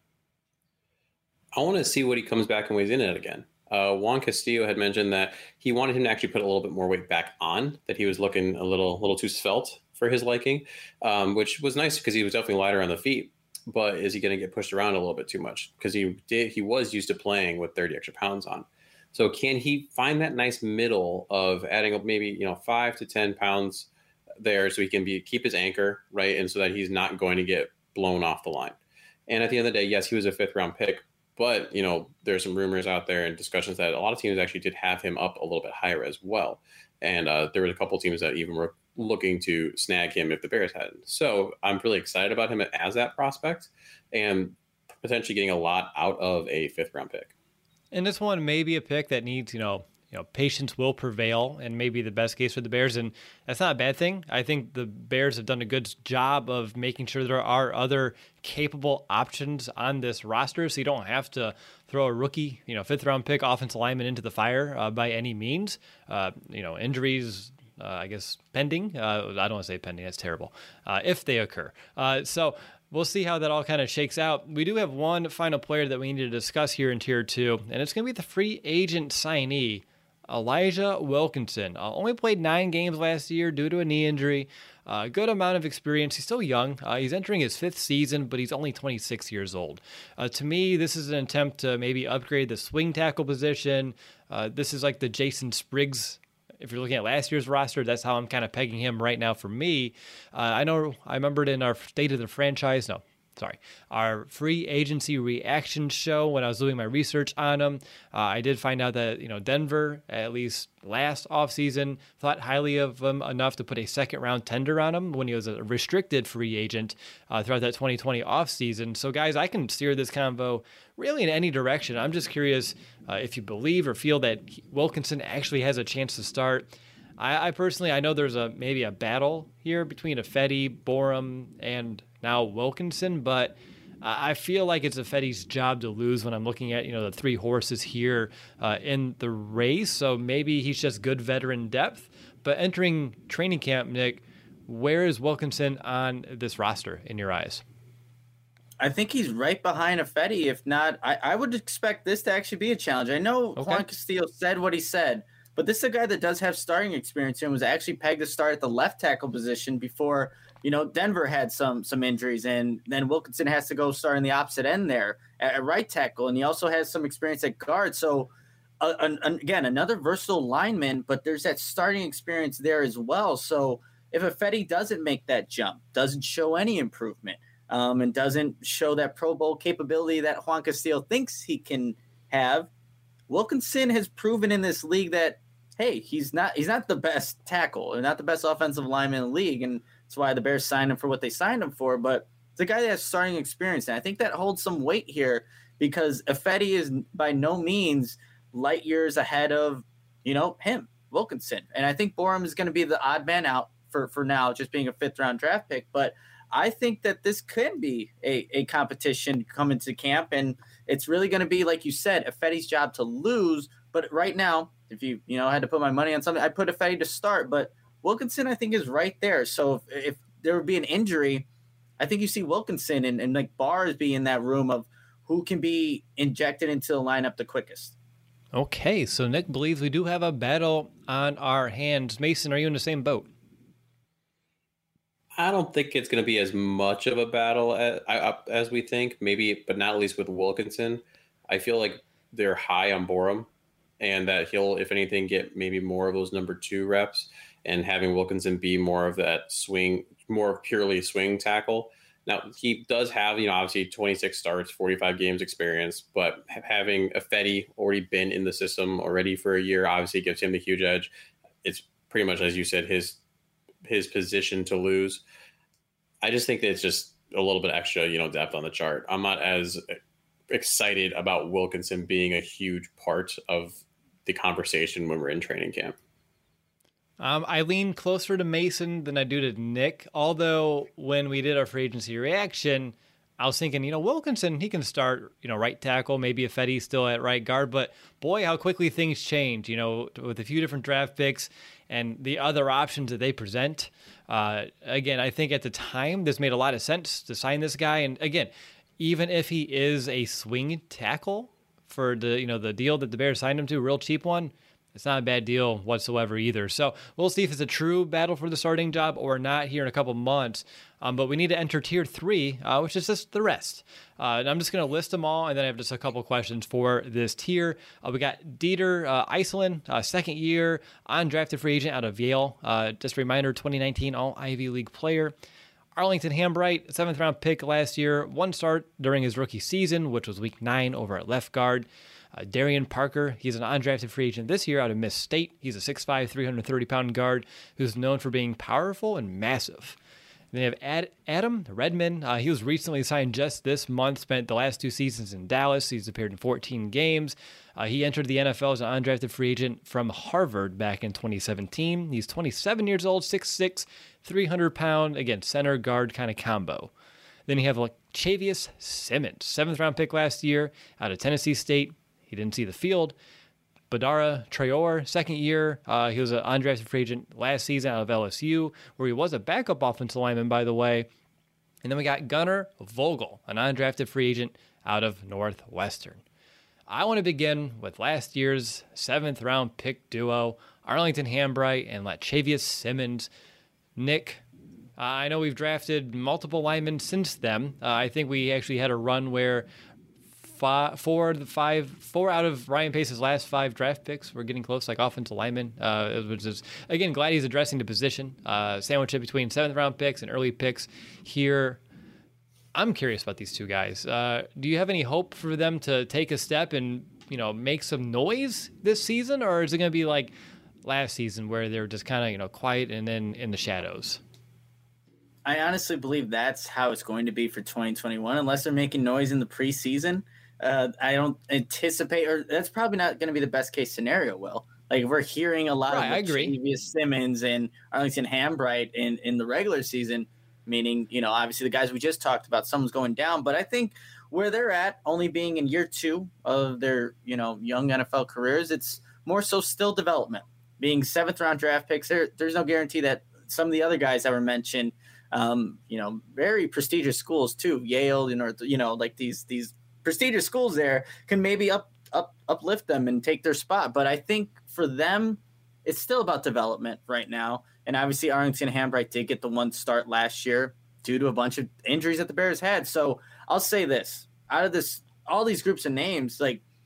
I want to see what he comes back and weighs in at again. Juan Castillo had mentioned that he wanted him to actually put a little bit more weight back on, that he was looking a little too svelte for his liking, which was nice because he was definitely lighter on the feet. But is he going to get pushed around a little bit too much? Because he was used to playing with 30 extra pounds on. So can he find that nice middle of adding up maybe 5 to 10 pounds there, so he can keep his anchor right, and so that he's not going to get blown off the line. And at the end of the day, yes, he was a 5th round pick, but there's some rumors out there and discussions that a lot of teams actually did have him up a little bit higher as well. And there were a couple teams that even were looking to snag him if the Bears hadn't. So I'm really excited about him as that prospect and potentially getting a lot out of a 5th round pick. And this one may be a pick that needs, patience will prevail and maybe the best case for the Bears. And that's not a bad thing. I think the Bears have done a good job of making sure there are other capable options on this roster. So you don't have to throw a rookie, 5th round pick offensive lineman into the fire by any means. Injuries, I guess, pending. I don't want to say pending. That's terrible. If they occur. So we'll see how that all kind of shakes out. We do have one final player that we need to discuss here in Tier 2, and it's going to be the free agent signee, Elijah Wilkinson. Only played 9 games last year due to a knee injury. Good amount of experience. He's still young. He's entering his 5th season, but he's only 26 years old. To me, this is an attempt to maybe upgrade the swing tackle position. This is like the Jason Spriggs. If you're looking at last year's roster, that's how I'm kind of pegging him right now for me. I remembered in our State of the Franchise, our free agency reaction show when I was doing my research on him. I did find out that, Denver, at least last offseason, thought highly of him enough to put a 2nd round tender on him when he was a restricted free agent throughout that 2020 offseason. So guys, I can steer this convo really in any direction. I'm just curious if you believe or feel that Wilkinson actually has a chance to start. I personally, I know there's maybe a battle here between Ifedi, Borum, and now Wilkinson, but I feel like it's Ifedi's job to lose when I'm looking at, the 3 horses here in the race. So maybe he's just good veteran depth. But entering training camp, Nick, where is Wilkinson on this roster in your eyes? I think he's right behind Ifedi. If not, I would expect this to actually be a challenge. I know Juan Castillo said what he said, but this is a guy that does have starting experience and was actually pegged to start at the left tackle position before, Denver had some injuries, and then Wilkinson has to go start in the opposite end there at right tackle, and he also has some experience at guard. So, again, another versatile lineman, but there's that starting experience there as well. So if Ifedi doesn't make that jump, doesn't show any improvement, and doesn't show that Pro Bowl capability that Juan Castillo thinks he can have, Wilkinson has proven in this league that, hey, he's not the best tackle and not the best offensive lineman in the league, and that's why the Bears signed him for what they signed him for. But it's a guy that has starting experience, and I think that holds some weight here because Ifedi is by no means light years ahead of, him, Wilkinson. And I think Borum is going to be the odd man out for now, just being a 5th round draft pick. But I think that this could be a competition coming to camp, and it's really going to be, like you said, Ifedi's job to lose. But right now, if you had to put my money on something, I'd put Ifedi to start. But Wilkinson, I think, is right there. So if there would be an injury, I think you see Wilkinson and like Bars be in that room of who can be injected into the lineup the quickest. Okay, so Nick believes we do have a battle on our hands. Mason, are you in the same boat? I don't think it's going to be as much of a battle as we think, maybe, but not at least with Wilkinson. I feel like they're high on Borum, and that he'll, if anything, get maybe more of those number 2 reps, and having Wilkinson be more of that swing, more purely swing tackle. Now, he does have, obviously 26 starts, 45 games experience, but having Ifedi already been in the system already for a year obviously gives him the huge edge. It's pretty much, as you said, his position to lose. I just think that it's just a little bit extra, depth on the chart. I'm not as excited about Wilkinson being a huge part of the conversation when we're in training camp. I lean closer to Mason than I do to Nick, although when we did our free agency reaction, I was thinking, Wilkinson, he can start, right tackle, maybe Ifedi's still at right guard, but boy, how quickly things change, with a few different draft picks and the other options that they present. Again, I think at the time, this made a lot of sense to sign this guy. And again, even if he is a swing tackle for the deal that the Bears signed him to, a real cheap one, it's not a bad deal whatsoever either. So we'll see if it's a true battle for the starting job or not here in a couple months. But we need to enter tier 3, which is just the rest. And I'm just going to list them all, and then I have just a couple questions for this tier. We got Dieter Iselin, second year, undrafted free agent out of Yale. Just a reminder, 2019 All-Ivy League player. Arlington Hambright, 7th round pick last year, one start during his rookie season, which was week 9 over at left guard. Darian Parker, he's an undrafted free agent this year out of Miss State. He's a 6'5", 330-pound guard who's known for being powerful and massive. Then you have Adam Redman. He was recently signed just this month, spent the last 2 seasons in Dallas. He's appeared in 14 games. He entered the NFL as an undrafted free agent from Harvard back in 2017. He's 27 years old, 6'6", 300-pound, again, center guard kind of combo. Then you have Chavius Simmons, 7th round pick last year out of Tennessee State. He didn't see the field. Badara Traore, second year. He was an undrafted free agent last season out of LSU, where he was a backup offensive lineman, by the way. And then we got Gunnar Vogel, an undrafted free agent out of Northwestern. I want to begin with last year's 7th round pick duo, Arlington Hambright and Lachavious Simmons. Nick, I know we've drafted multiple linemen since then. I think we actually had a run where 4 out of Ryan Pace's last 5 draft picks were getting close, like offensive linemen, which is, again, glad he's addressing the position. Sandwich it between 7th round picks and early picks here. I'm curious about these two guys. Do you have any hope for them to take a step and, make some noise this season? Or is it going to be like last season where they're just kind of, quiet and then in the shadows? I honestly believe that's how it's going to be for 2021, unless they're making noise in the preseason. I don't anticipate, or that's probably not going to be the best case scenario, Will. Like, we're hearing a lot of Chavius Simmons and Arlington Hambright in the regular season, meaning, obviously the guys we just talked about, someone's going down. But I think where they're at, only being in year 2 of their, young NFL careers, it's more so still development. Being 7th round draft picks, there's no guarantee that some of the other guys that were mentioned, very prestigious schools too, Yale, like these prestigious schools there can maybe uplift them and take their spot. But I think for them, it's still about development right now. And obviously Arlington Hambright did get the one start last year due to a bunch of injuries that the Bears had. So I'll say this, out of all these groups of names,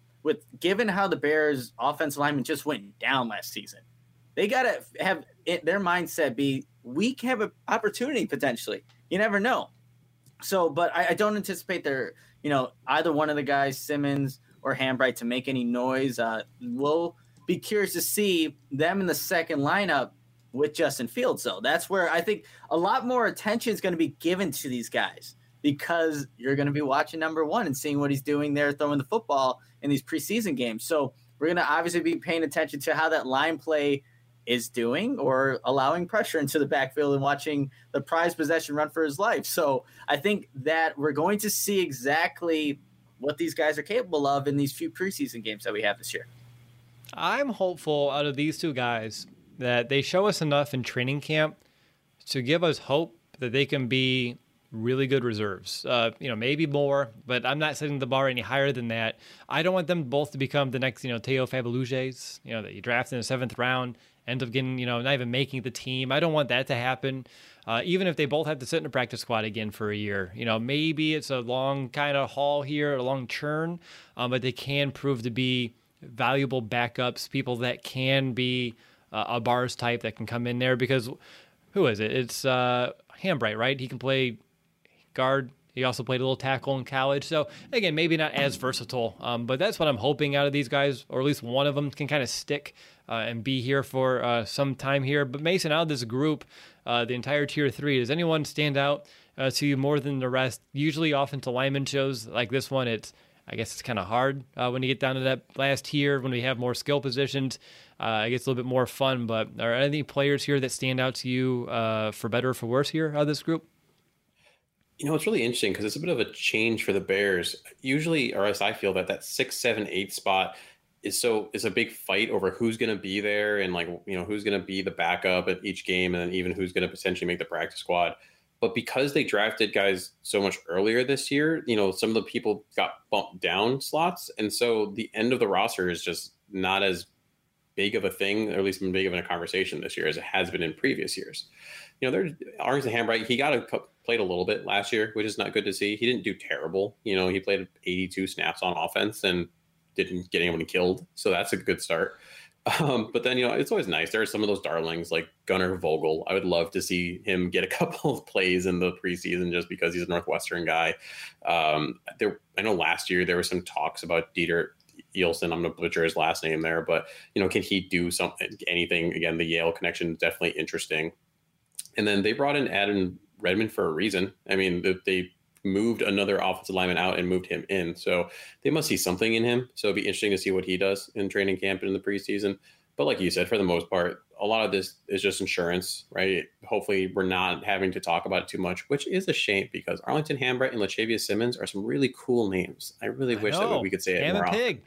given how the Bears offensive linemen just went down last season, they got to have their mindset be, we can have an opportunity potentially. You never know. So, but I don't anticipate either one of the guys, Simmons or Hambright, to make any noise. We'll be curious to see them in the second lineup with Justin Fields, though. That's where I think a lot more attention is going to be given to these guys, because you're going to be watching number 1 and seeing what he's doing there, throwing the football in these preseason games. So we're going to obviously be paying attention to how that line play is doing, or allowing pressure into the backfield and watching the prized possession run for his life. So I think that we're going to see exactly what these guys are capable of in these few preseason games that we have this year. I'm hopeful out of these two guys that they show us enough in training camp to give us hope that they can be really good reserves. Maybe more, but I'm not setting the bar any higher than that. I don't want them both to become the next, Teo Fabaluges, that you draft in the 7th round, end up getting, not even making the team. I don't want that to happen. Even if they both have to sit in a practice squad again for a year, maybe it's a long kind of haul here, a long churn, but they can prove to be valuable backups, people that can be a bars type that can come in there, because who is it? It's Hambright, right? He can play guard. He also played a little tackle in college. So, again, maybe not as versatile, but that's what I'm hoping out of these guys, or at least one of them can kind of stick and be here for some time here. But, Mason, out of this group, the entire Tier 3, does anyone stand out to you more than the rest? Usually offensive lineman shows like this one, I guess it's kind of hard when you get down to that last tier, when we have more skill positions. It gets a little bit more fun. But are any players here that stand out to you for better or for worse here out of this group? It's really interesting because it's a bit of a change for the Bears. Usually, or as I feel, that 6, 7, 8 spot is a big fight over who's going to be there and like who's going to be the backup at each game, and then even who's going to potentially make the practice squad. But because they drafted guys so much earlier this year, some of the people got bumped down slots, and so the end of the roster is just not as big of a thing, or at least big of a conversation this year as it has been in previous years. There's Arlington Hambright. He played a little bit last year, which is not good to see. He didn't do terrible. He played 82 snaps on offense and didn't get anyone killed, so that's a good start. But then it's always nice. There are some of those darlings like Gunnar Vogel. I would love to see him get a couple of plays in the preseason just because he's a Northwestern guy. I know last year there were some talks about Dieter Eelson. I'm going to butcher his last name there, but can he do anything? Again, the Yale connection is definitely interesting. And then they brought in Adam Redmond for a reason. I mean, they moved another offensive lineman out and moved him in, so they must see something in him. So it'd be interesting to see what he does in training camp and in the preseason. But like you said, for the most part, a lot of this is just insurance, right? Hopefully we're not having to talk about it too much, which is a shame because Arlington Hambright and Latavius Simmons are some really cool names. I really wish that we could say it more often. Pig.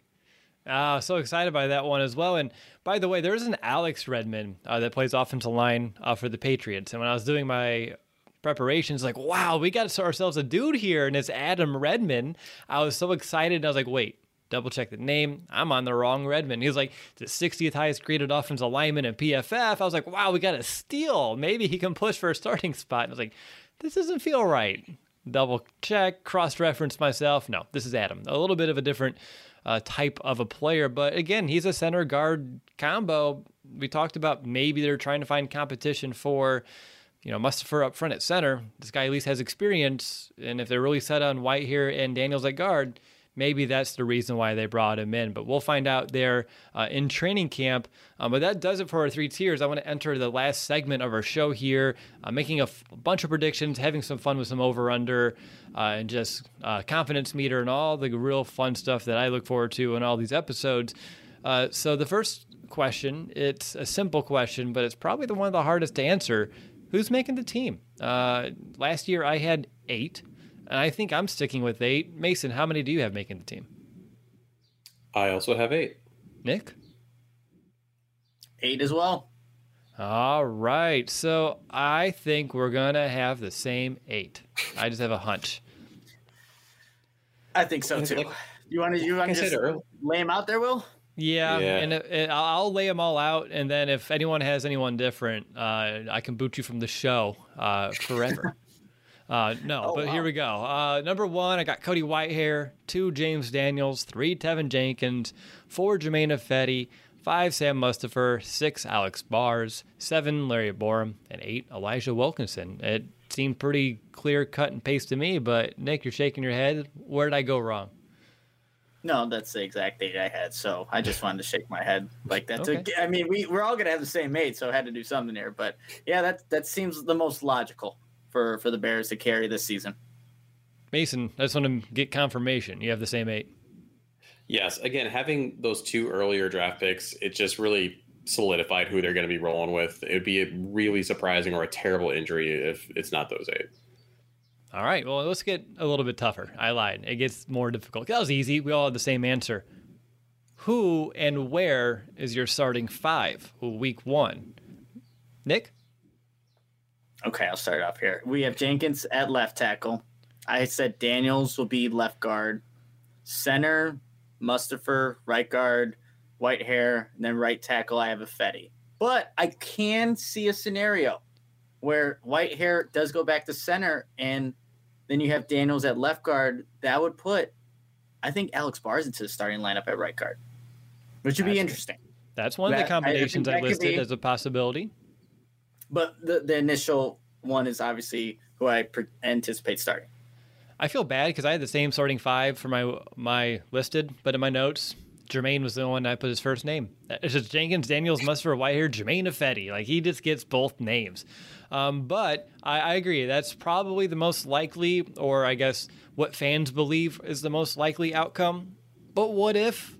So excited by that one as well. And by the way, there's an Alex Redmond that plays offensive line for the Patriots. And when I was doing my preparations, like, wow, we got ourselves a dude here, and it's Adam Redmond. I was so excited, and I was like, wait, double check the name. I'm on the wrong Redmond. He was like the 60th highest graded offensive lineman in PFF. I was like, wow, we got a steal. Maybe he can push for a starting spot. And I was like, this doesn't feel right. Double check, cross-reference myself. No, this is Adam. A little bit of a different type of a player, but again, he's a center guard combo. We talked about maybe they're trying to find competition for Mustipher up front at center. This guy at least has experience, and if they're really set on Whitehair and Daniels at guard, maybe that's the reason why they brought him in. But we'll find out there in training camp. But that does it for our three tiers. I want to enter the last segment of our show here, making a bunch of predictions, having some fun with some over-under, and just confidence meter and all the real fun stuff that I look forward to in all these episodes. So the first question, it's a simple question, but it's probably one of the hardest to answer. Who's making the team? Last year I had 8, and I think I'm sticking with 8. Mason, how many do you have making the team? I also have 8. Nick? 8 as well. All right. So I think we're going to have the same 8. I just have a hunch. I think so too. You want to just lay them out there, Will? Yeah. And I'll lay them all out, and then if anyone has anyone different, I can boot you from the show forever. Here we go. Number 1, I got Cody Whitehair. 2, James Daniels. 3, Tevin Jenkins. 4, Jermaine Ifedi. 5, Sam Mustipher. 6, Alex Bars. 7, Larry Borum. And 8, Elijah Wilkinson. It seemed pretty clear cut and paste to me, but Nick, you're shaking your head. Where did I go wrong? No, that's the exact date I had, so I just wanted to shake my head like that. Okay. I mean, we're all going to have the same mate, so I had to do something here. But, yeah, that seems the most logical for the Bears to carry this season. Mason, I just want to get confirmation. You have the same 8. Yes. Again, having those 2 earlier draft picks, it just really solidified who they're going to be rolling with. It would be a really surprising or a terrible injury if it's not those 8. All right, well, let's get a little bit tougher. I lied. It gets more difficult. That was easy. We all had the same answer. Who and where is your starting 5 week 1? Nick? Okay, I'll start off here. We have Jenkins at left tackle. I said Daniels will be left guard. Center, Mustipher, right guard, Whitehair, and then right tackle, I have Ifedi. But I can see a scenario where Whitehair does go back to center, and then you have Daniels at left guard. That would put, I think, Alex Bars into the starting lineup at right guard, which would be interesting. That's one of the combinations I listed as a possibility. But the initial one is obviously who I anticipate starting. I feel bad because I had the same starting 5 for my listed, but in my notes, Jermaine was the one I put his first name. It's just Jenkins, Daniels, Mustipher, Whitehair, Jermaine Ifedi. Like, he just gets both names. But I agree. That's probably the most likely, or I guess what fans believe is the most likely outcome. But what if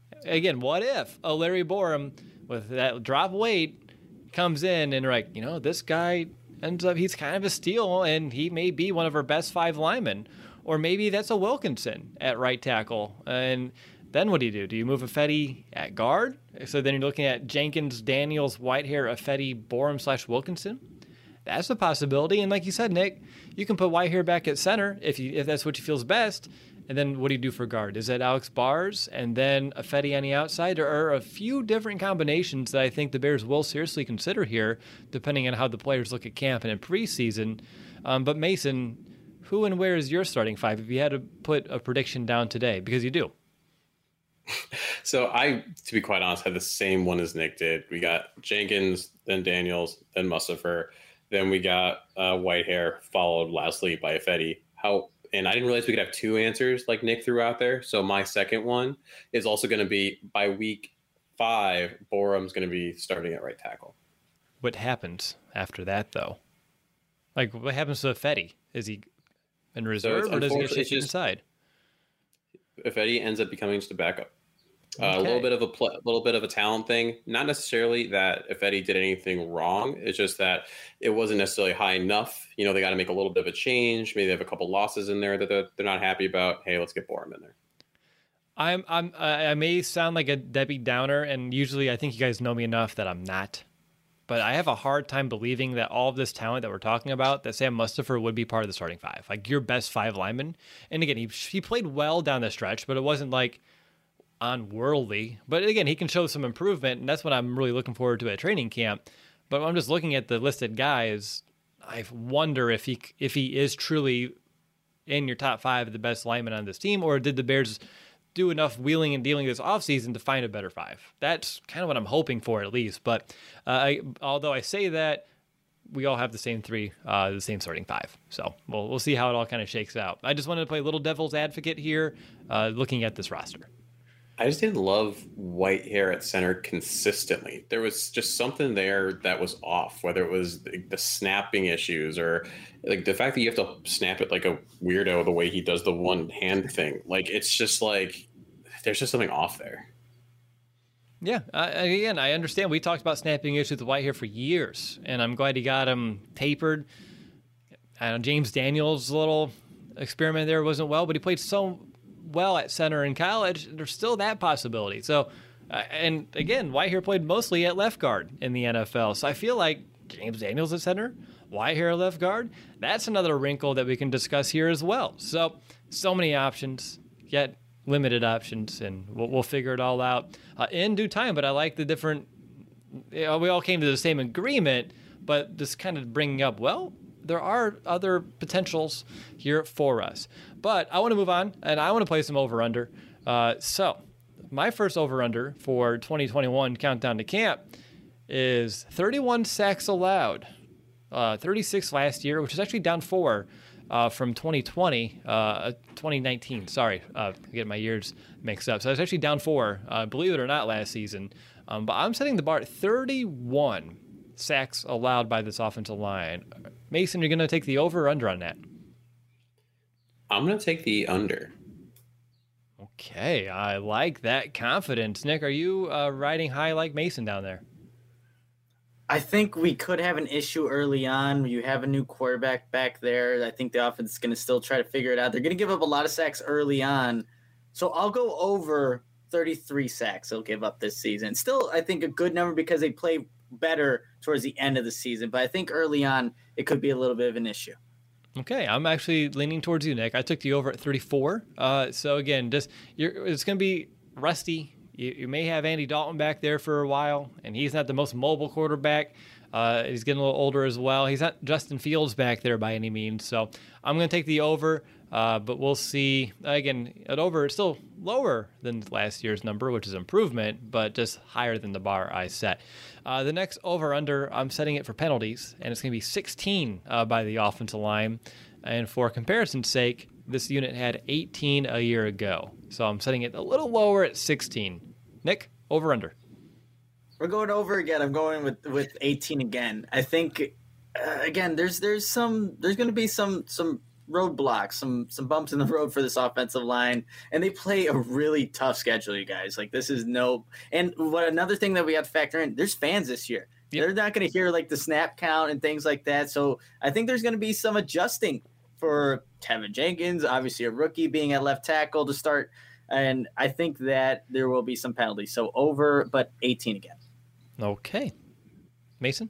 a Larry Borum with that drop weight comes in and like, this guy ends up he's kind of a steal, and he may be one of our best 5 linemen. Or maybe that's a Wilkinson at right tackle. And then what do? Do you move Ifedi at guard? So then you're looking at Jenkins, Daniels, Whitehair, Ifedi, Borum / Wilkinson. That's a possibility. And like you said, Nick, you can put Whitehair back at center if that's what you feels best. And then what do you do for guard? Is it Alex Bars and then Ifedi on the outside? There are a few different combinations that I think the Bears will seriously consider here, depending on how the players look at camp and in preseason. But Mason, who and where is your starting 5 if you had to put a prediction down today? Because you do. So I, to be quite honest, had the same one as Nick did. We got Jenkins, then Daniels, then Mustipher. Then we got Whitehair, followed lastly by Ifedi. And I didn't realize we could have 2 answers like Nick threw out there. So my second one is also going to be by week 5, Borum's going to be starting at right tackle. What happens after that, though? Like, what happens to Ifedi? Is he in reserve, or does he get shifted inside? Ifedi ends up becoming just a backup. A little bit of a talent thing. Not necessarily that Ifedi did anything wrong. It's just that it wasn't necessarily high enough. They got to make a little bit of a change. Maybe they have a couple losses in there that they're not happy about. Hey, let's get Borum in there. I may sound like a Debbie Downer, and usually I think you guys know me enough that I'm not. But I have a hard time believing that all of this talent that we're talking about, that Sam Mustipher would be part of the starting 5. Like your best 5 lineman. And again, he played well down the stretch, but it wasn't like unworldly. But again, he can show some improvement, and that's what I'm really looking forward to at training camp. But I'm just looking at the listed guys. I wonder if he is truly in your top 5 of the best linemen on this team, or did the Bears do enough wheeling and dealing this offseason to find a better 5? That's kind of what I'm hoping for, at least. But although I say that, we all have the same 3, the same starting 5. So we'll see how it all kind of shakes out. I just wanted to play a little devil's advocate here, looking at this roster. I just didn't love Whitehair at center consistently. There was just something there that was off, whether it was the snapping issues or like the fact that you have to snap it like a weirdo the way he does the one hand thing. Like, it's just like, there's just something off there. Yeah. Again, I understand. We talked about snapping issues with Whitehair for years, and I'm glad he got him tapered. I know James Daniels' little experiment there wasn't well, but he played so well at center in college. There's still that possibility. So, and again, Whitehair played mostly at left guard in the NFL. So I feel like James Daniels at center, Whitehair at left guard, that's another wrinkle that we can discuss here as well. So many options, yet limited options, and we'll figure it all out in due time. But I like the different, we all came to the same agreement, but just kind of bringing up, well, there are other potentials here for us. But I want to move on, and I want to play some over-under. So my first over-under for 2021 Countdown to Camp is 31 sacks allowed. 36 last year, which is actually down 4 from 2019. Sorry, getting my years mixed up. So it's actually down 4, believe it or not, last season. But I'm setting the bar at 31 sacks allowed by this offensive line. Mason, you're going to take the over or under on that? I'm going to take the under. Okay, I like that confidence. Nick, are you riding high like Mason down there? I think we could have an issue early on. You have a new quarterback back there. I think the offense is going to still try to figure it out. They're going to give up a lot of sacks early on. So I'll go over 33 sacks they'll give up this season. Still, I think a good number because they play better towards the end of the season. But I think early on, it could be a little bit of an issue. Okay, I'm actually leaning towards you, Nick. I took the over at 34. So again, it's going to be rusty. You may have Andy Dalton back there for a while, and he's not the most mobile quarterback. He's getting a little older as well. He's not Justin Fields back there by any means. So I'm going to take the over, but we'll see. Again, at over, it's still lower than last year's number, which is improvement, but just higher than the bar I set. The next over-under, I'm setting it for penalties, and it's going to be 16 by the offensive line. And for comparison's sake, this unit had 18 a year ago. So I'm setting it a little lower at 16. Nick, over-under. We're going over again. I'm going with 18 again. I think, again, there's going to be some roadblocks, some bumps in the road for this offensive line, and they play a really tough schedule, you guys. Like, this is no – and another thing that we have to factor in, there's fans this year. Yep. They're not going to hear like the snap count and things like that. So I think there's going to be some adjusting for Tevin Jenkins, obviously a rookie being at left tackle to start. And I think that there will be some penalties. So over, but 18 again. Okay. Mason?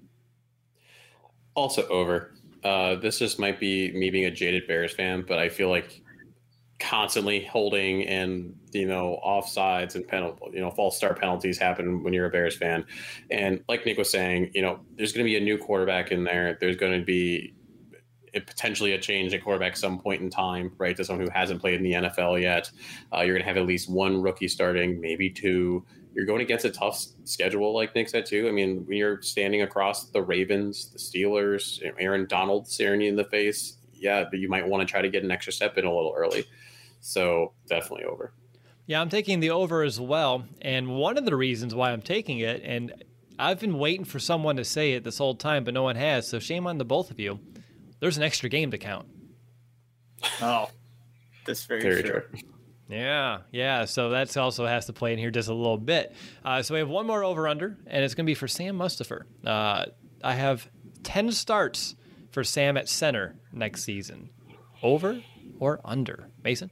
Also over. This just might be me being a jaded Bears fan, but I feel like constantly holding and offsides and penalty, false start penalties happen when you're a Bears fan. And like Nick was saying, there's going to be a new quarterback in there. There's going to be potentially a change at quarterback some point in time, right? To someone who hasn't played in the NFL yet. You're going to have at least one rookie starting, maybe two. You're going against a tough schedule, like Nick said too. I mean, when you're standing across the Ravens, the Steelers, Aaron Donald staring you in the face, yeah, but you might want to try to get an extra step in a little early. So definitely over. Yeah, I'm taking the over as well. And one of the reasons why I'm taking it, and I've been waiting for someone to say it this whole time, but no one has. So shame on the both of you. There's an extra game to count. Oh, that's very true. Yeah. So that also has to play in here just a little bit. So we have one more over-under, and it's going to be for Sam Mustipher. I have 10 starts for Sam at center next season. Over or under? Mason?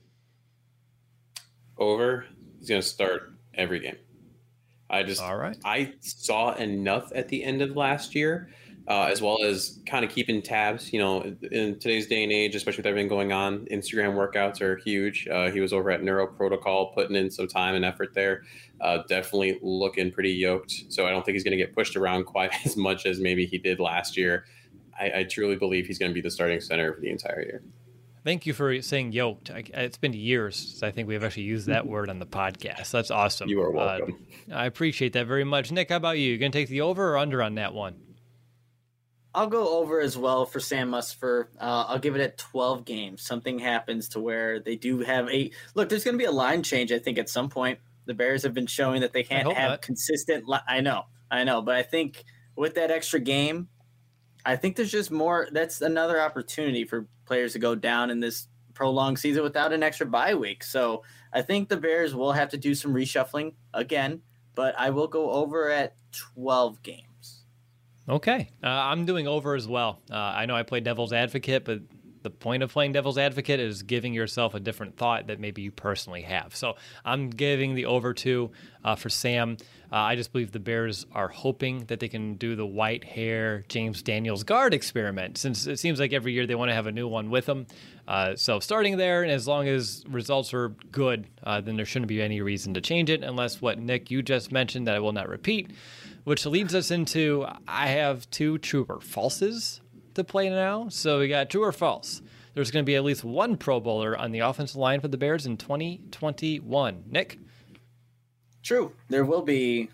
Over. He's going to start every game. All right. I saw enough at the end of last year, as well as kind of keeping tabs. In today's day and age, especially with everything going on, Instagram workouts are huge. He was over at Neuro Protocol, putting in some time and effort there. Definitely looking pretty yoked. So I don't think he's going to get pushed around quite as much as maybe he did last year. I truly believe he's going to be the starting center for the entire year. Thank you for saying yoked. It's been years since I think we've actually used that word on the podcast. That's awesome. You are welcome. I appreciate that very much. Nick, how about you? You going to take the over or under on that one? I'll go over as well for Sam Mustipher. I'll give it at 12 games. Something happens to where they do have look, there's going to be a line change, I think, at some point. The Bears have been showing that they can't have consistent. I know. But I think with that extra game, I think there's just more. That's another opportunity for players to go down in this prolonged season without an extra bye week. So I think the Bears will have to do some reshuffling again, but I will go over at 12 games. Okay. I'm doing over as well. I know I play devil's advocate, but the point of playing devil's advocate is giving yourself a different thought that maybe you personally have. So I'm giving the over to for Sam. I just believe the Bears are hoping that they can do the white hair James Daniels guard experiment, since it seems like every year they want to have a new one with them. So starting there, and as long as results are good, then there shouldn't be any reason to change it, unless what, Nick, you just mentioned that I will not repeat, which leads us into I have two true or falses to play now. So we got true or false. There's going to be at least one Pro Bowler on the offensive line for the Bears in 2021. Nick? True. There will be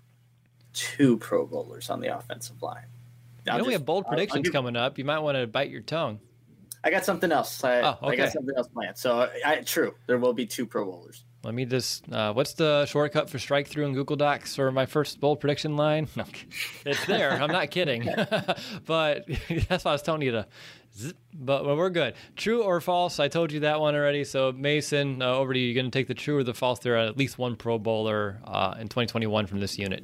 2 Pro Bowlers on the offensive line. We have bold predictions coming up. You might want to bite your tongue. I got something else. Okay. I got something else planned. So, true. There will be 2 Pro Bowlers. Let me just, what's the shortcut for strike through in Google Docs for my first bold prediction line? No, it's there. I'm not kidding. But that's why I was telling you to zip. But we're good. True or false? I told you that one already. So Mason, over to you. You're going to take the true or the false. There are at least one Pro Bowler in 2021 from this unit.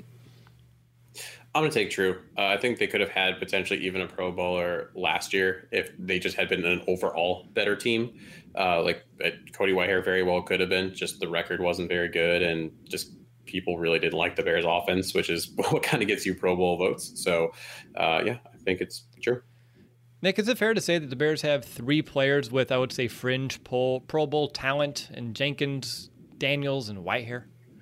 I'm going to take true. I think they could have had potentially even a Pro Bowler last year if they just had been an overall better team. Cody Whitehair very well could have been. Just the record wasn't very good, and just people really didn't like the Bears offense, which is what kind of gets you Pro Bowl votes. So, I think it's true. Nick, is it fair to say that the Bears have 3 players with, I would say, fringe Pro Bowl talent in Jenkins, Daniels, and Whitehair?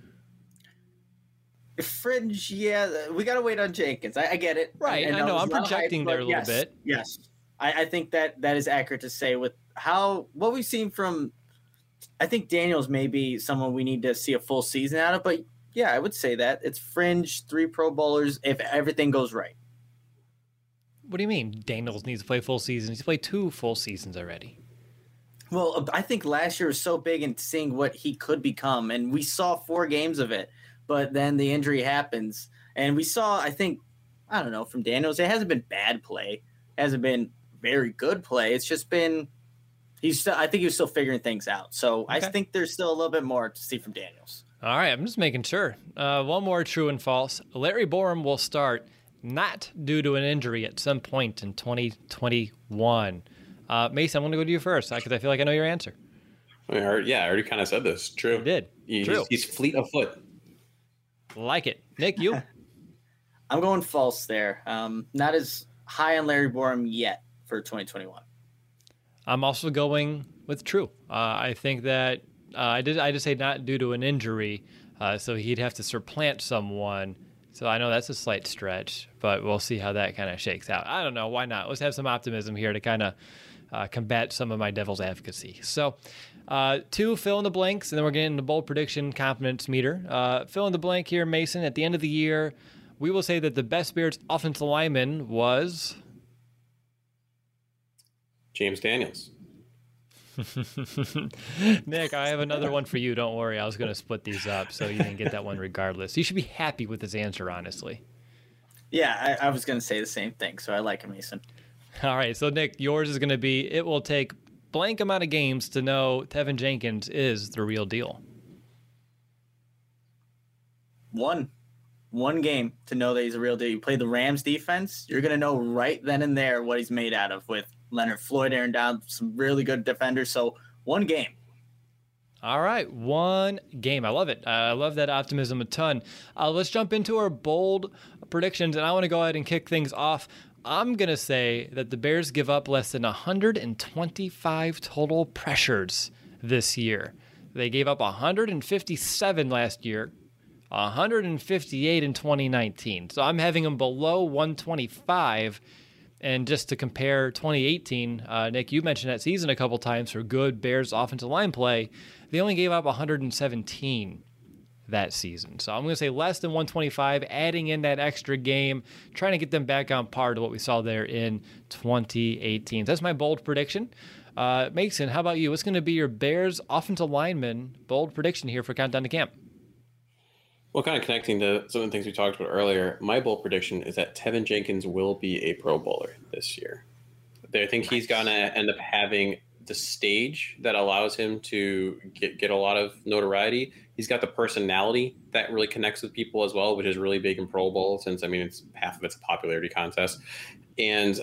Fringe, yeah. We got to wait on Jenkins. I get it. Right. I know. I'm projecting there a little bit. Yes. I think that is accurate to say with what we've seen from, I think Daniels may be someone we need to see a full season out of, but yeah, I would say that it's fringe 3 Pro Bowlers if everything goes right. What do you mean Daniels needs to play full seasons? He's played 2 full seasons already. Well, I think last year was so big in seeing what he could become, and we saw 4 games of it, but then the injury happens, and we saw, I think, I don't know, from Daniels, it hasn't been bad play, it hasn't been very good play. It's just been I think he was still figuring things out. So okay. I think there's still a little bit more to see from Daniels. All right, I'm just making sure. One more true and false. Larry Borum will start not due to an injury at some point in 2021. Mason, I'm going to go to you first because I feel like I know your answer. I already kind of said this. True. You did. True. He's fleet of foot. Like it. Nick, you? I'm going false there. Not as high on Larry Borum yet for 2021. I'm also going with true. I think that I just say not due to an injury, so he'd have to supplant someone. So I know that's a slight stretch, but we'll see how that kind of shakes out. I don't know. Why not? Let's have some optimism here to kind of combat some of my devil's advocacy. So 2, fill in the blanks, and then we're getting the bold prediction confidence meter. Fill in the blank here, Mason. At the end of the year, we will say that the best Bears offensive lineman was James Daniels. Nick, I have another one for you. Don't worry. I was going to split these up, so you didn't get that one regardless. You should be happy with his answer, honestly. Yeah, I was going to say the same thing, so I like him, Mason. All right, so Nick, yours is going to be, it will take blank amount of games to know Tevin Jenkins is the real deal. One game to know that he's a real deal. You play the Rams defense, you're going to know right then and there what he's made out of with Leonard Floyd, Aaron Donald, some really good defenders. So one game. All right, one game. I love it. I love that optimism a ton. Let's jump into our bold predictions, and I want to go ahead and kick things off. I'm going to say that the Bears give up less than 125 total pressures this year. They gave up 157 last year, 158 in 2019. So I'm having them below 125. And just to compare 2018, Nick, you mentioned that season a couple times for good Bears offensive line play. They only gave up 117 that season. So I'm going to say less than 125, adding in that extra game, trying to get them back on par to what we saw there in 2018. That's my bold prediction. Mason, how about you? What's going to be your Bears offensive lineman bold prediction here for Countdown to Camp? Well, kind of connecting to some of the things we talked about earlier, my bold prediction is that Tevin Jenkins will be a Pro Bowler this year. I think he's going to end up having the stage that allows him to get a lot of notoriety. He's got the personality that really connects with people as well, which is really big in Pro Bowl since, it's half of it's a popularity contest. And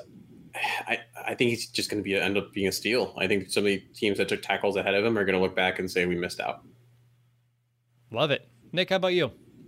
I think he's just going to end up being a steal. I think some of the teams that took tackles ahead of him are going to look back and say we missed out. Love it. Nick, how about you?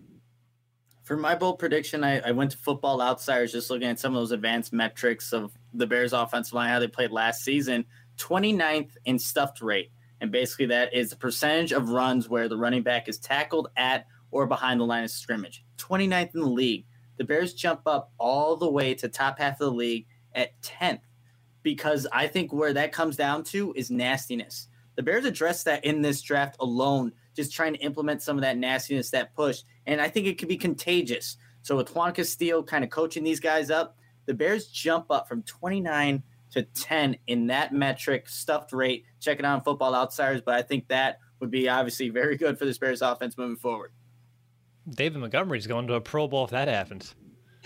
For my bold prediction, I went to Football Outsiders just looking at some of those advanced metrics of the Bears offensive line, how they played last season. 29th in stuffed rate. And basically that is the percentage of runs where the running back is tackled at or behind the line of scrimmage. 29th in the league. The Bears jump up all the way to top half of the league at 10th because I think where that comes down to is nastiness. The Bears addressed that in this draft alone, just trying to implement some of that nastiness, that push. And I think it could be contagious. So with Juan Castillo kind of coaching these guys up, the Bears jump up from 29 to 10 in that metric, stuffed rate. Check it out on Football Outsiders, but I think that would be obviously very good for this Bears offense moving forward. David Montgomery's going to a Pro Bowl if that happens.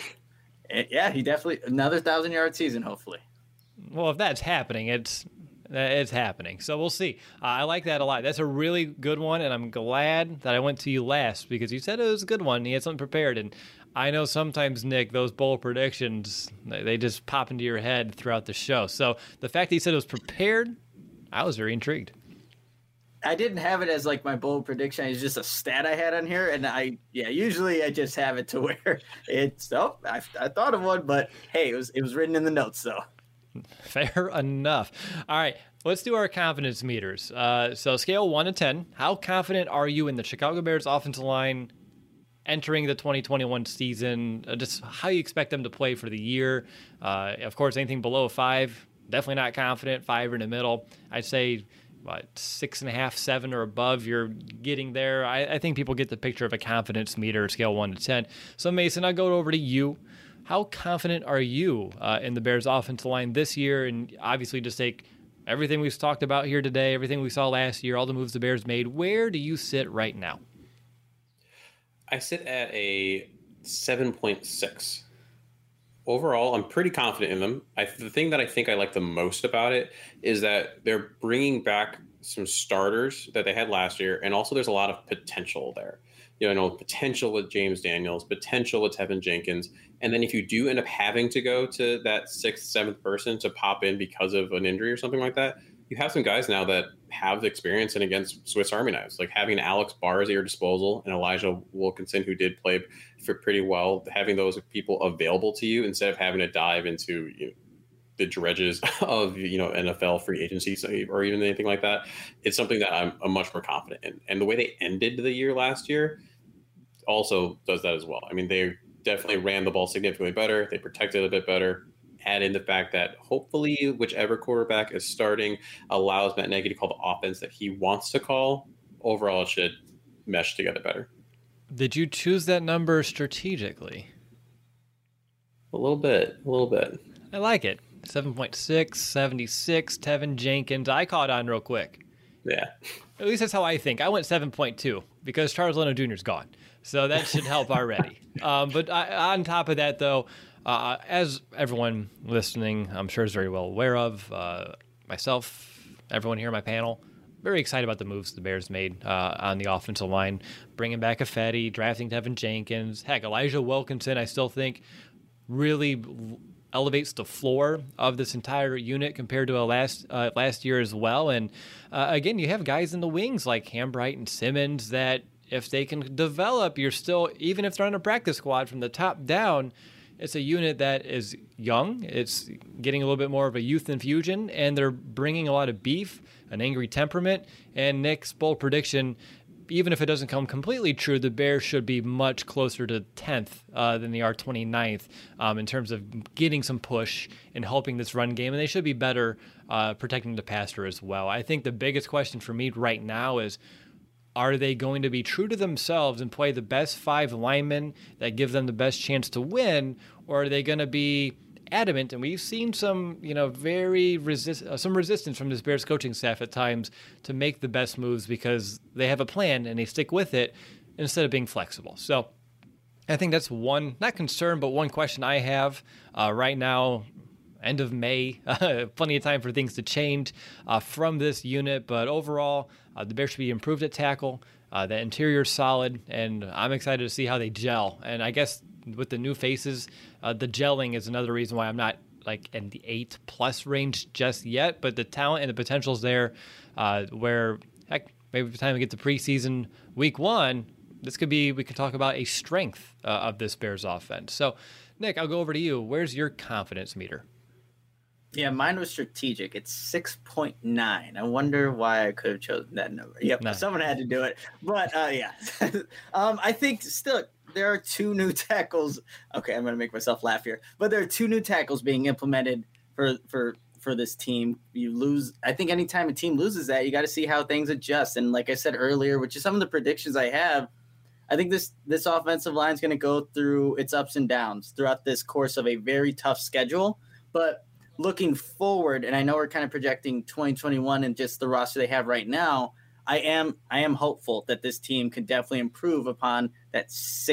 Yeah, he definitely, another 1,000-yard season, hopefully. Well, if that's happening, it's happening. So we'll see. I like that a lot. That's a really good one, and I'm glad that I went to you last because you said it was a good one. You had something prepared, and I know sometimes, Nick, those bold predictions, they just pop into your head throughout the show. So the fact that you said it was prepared, I was very intrigued. I didn't have it as like my bold prediction. It's just a stat I had on here, and usually I just have it to where it's I thought of one, but hey, it was written in the notes, so. Fair enough. All right, let's do our confidence meters. So scale 1 to 10, how confident are you in the Chicago Bears offensive line entering the 2021 season? Just how you expect them to play for the year. Of course, anything below 5, definitely not confident. 5 in the middle. I'd say 6.5, 7 or above, you're getting there. I think people get the picture of a confidence meter, scale 1 to 10. So Mason, I'll go over to you. How confident are you in the Bears offensive line this year? And obviously just take everything we've talked about here today, everything we saw last year, all the moves the Bears made. Where do you sit right now? I sit at a 7.6 overall, I'm pretty confident in them. The thing that I think I like the most about it is that they're bringing back some starters that they had last year, and also there's a lot of potential there. Potential with James Daniels, potential with Tevin Jenkins, and then if you do end up having to go to that sixth, seventh person to pop in because of an injury or something like that, you have some guys now that have experience and against Swiss Army knives, like having Alex Bars at your disposal and Elijah Wilkinson, who did play for pretty well, having those people available to you instead of having to dive into the dredges of NFL free agency or even anything like that. It's something that I'm much more confident in. And the way they ended the year last year also does that as well. I mean, they definitely ran the ball significantly better. They protected a bit better. Add in the fact that hopefully whichever quarterback is starting allows Matt Nagy to call the offense that he wants to call. Overall, it should mesh together better. Did you choose that number strategically? A little bit. I like it. 7.6, 76, Tevin Jenkins. I caught on real quick. Yeah. At least that's how I think. I went 7.2 because Charles Leno Jr. is gone. So that should help already. But on top of that, though, as everyone listening, I'm sure is very well aware of, myself, everyone here on my panel, very excited about the moves the Bears made on the offensive line, bringing back Ifedi, drafting Tevin Jenkins. Heck, Elijah Wilkinson, I still think, really elevates the floor of this entire unit compared to last year as well. And again, you have guys in the wings like Hambright and Simmons that if they can develop, you're still, even if they're on a practice squad from the top down, it's a unit that is young. It's getting a little bit more of a youth infusion, and they're bringing a lot of beef, an angry temperament. And Nick's bold prediction, even if it doesn't come completely true, the Bears should be much closer to 10th than they are 29th in terms of getting some push and helping this run game. And they should be better protecting the passer as well. I think the biggest question for me right now is, are they going to be true to themselves and play the best 5 linemen that give them the best chance to win? Or are they going to be adamant? And we've seen some, some resistance from this Bears coaching staff at times to make the best moves because they have a plan and they stick with it instead of being flexible. So I think that's one, not concern, but one question I have right now. End of May, plenty of time for things to change from this unit. But overall, the Bears should be improved at tackle. The interior's solid, and I'm excited to see how they gel. And I guess with the new faces, the gelling is another reason why I'm not like in the 8+ range just yet. But the talent and the potential's there where, heck, maybe by the time we get to preseason week 1, we could talk about a strength of this Bears offense. So, Nick, I'll go over to you. Where's your confidence meter? Yeah, mine was strategic. It's 6.9. I wonder why I could have chosen that number. Yep, Someone had to do it. But, yeah. I think still there are 2 new tackles. Okay, I'm going to make myself laugh here. But there are 2 new tackles being implemented for this team. You lose. I think anytime a team loses that, you got to see how things adjust. And like I said earlier, which is some of the predictions I have, I think this offensive line is going to go through its ups and downs throughout this course of a very tough schedule. But looking forward, and I know we're kind of projecting 2021 and just the roster they have right now, I am hopeful that this team can definitely improve upon that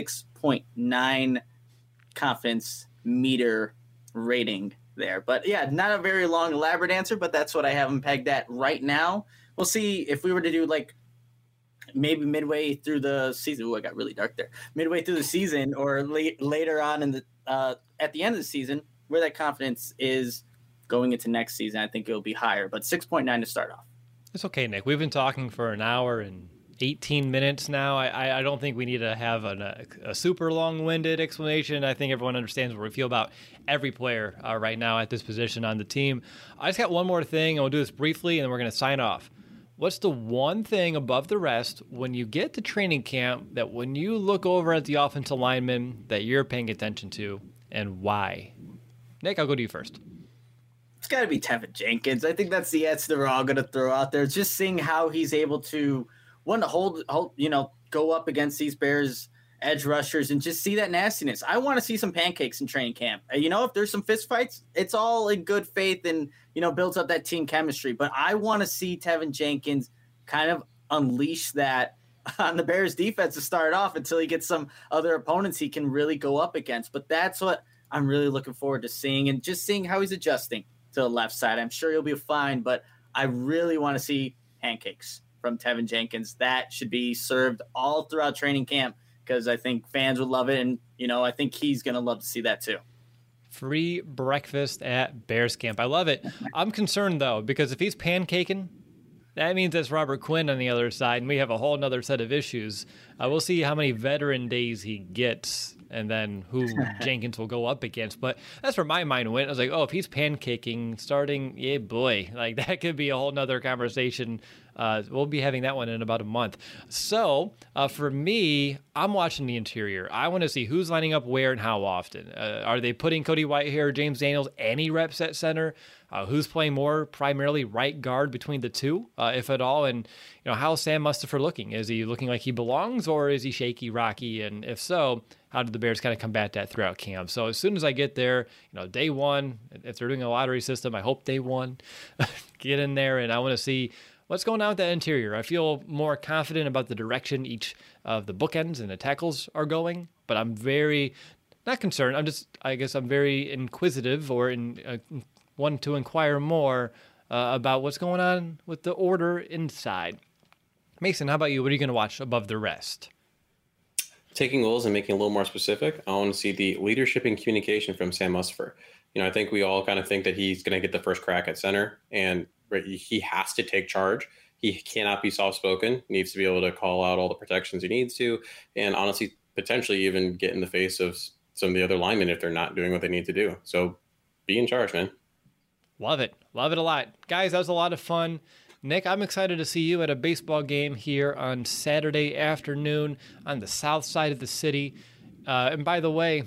6.9 confidence meter rating there. But yeah, not a very long, elaborate answer, but that's what I have them pegged at right now. We'll see if we were to do like maybe midway through the season. Ooh, I got really dark there. Midway through the season or later on in the at the end of the season, where that confidence is going into next season, I think it'll be higher, but 6.9 to start off. It's okay, Nick. We've been talking for an hour and 18 minutes now. I don't think we need to have a super long-winded explanation. I think everyone understands what we feel about every player right now at this position on the team. I just got one more thing, and we'll do this briefly, and then we're going to sign off. What's the one thing above the rest when you get to training camp that when you look over at the offensive lineman that you're paying attention to, and why? Nick, I'll go to you first. It's got to be Tevin Jenkins. I think that's the answer we're all going to throw out there. It's just seeing how he's able to, hold, go up against these Bears edge rushers and just see that nastiness. I want to see some pancakes in training camp. If there's some fist fights, it's all in good faith and, builds up that team chemistry. But I want to see Tevin Jenkins kind of unleash that on the Bears defense to start off until he gets some other opponents he can really go up against. But that's what I'm really looking forward to seeing how he's adjusting to the left side. I'm sure he'll be fine, but I really want to see pancakes from Tevin Jenkins. That should be served all throughout training camp because I think fans would love it. And, I think he's going to love to see that too. Free breakfast at Bears camp. I love it. I'm concerned, though, because if he's pancaking, that means it's Robert Quinn on the other side, and we have a whole other set of issues. We'll see how many veteran days he gets and then who Jenkins will go up against. But that's where my mind went. I was like, oh, if he's pancaking starting, yeah, boy, like that could be a whole nother conversation. We'll be having that one in about a month. So for me, I'm watching the interior. I want to see who's lining up where and how often. Are they putting Cody Whitehair, James Daniels, any reps at center? Who's playing more primarily right guard between the two, if at all? And how's Sam Mustipher looking? Is he looking like he belongs, or is he shaky, rocky? And if so, how did the Bears kind of combat that throughout camp? So as soon as I get there, day one, if they're doing a lottery system, I hope day one, get in there, and I want to see what's going on with that interior. I feel more confident about the direction each of the bookends and the tackles are going, but I'm very not concerned. I guess I'm very inquisitive or want to inquire more about what's going on with the order inside. Mason, how about you? What are you going to watch above the rest? Taking goals and making it a little more specific, I want to see the leadership and communication from Sam Mustipher. I think we all kind of think that he's going to get the first crack at center, and he has to take charge. He cannot be soft-spoken. He needs to be able to call out all the protections he needs to, and honestly, potentially even get in the face of some of the other linemen if they're not doing what they need to do. So be in charge, man. Love it. Love it a lot. Guys, that was a lot of fun. Nick, I'm excited to see you at a baseball game here on Saturday afternoon on the south side of the city. And by the way,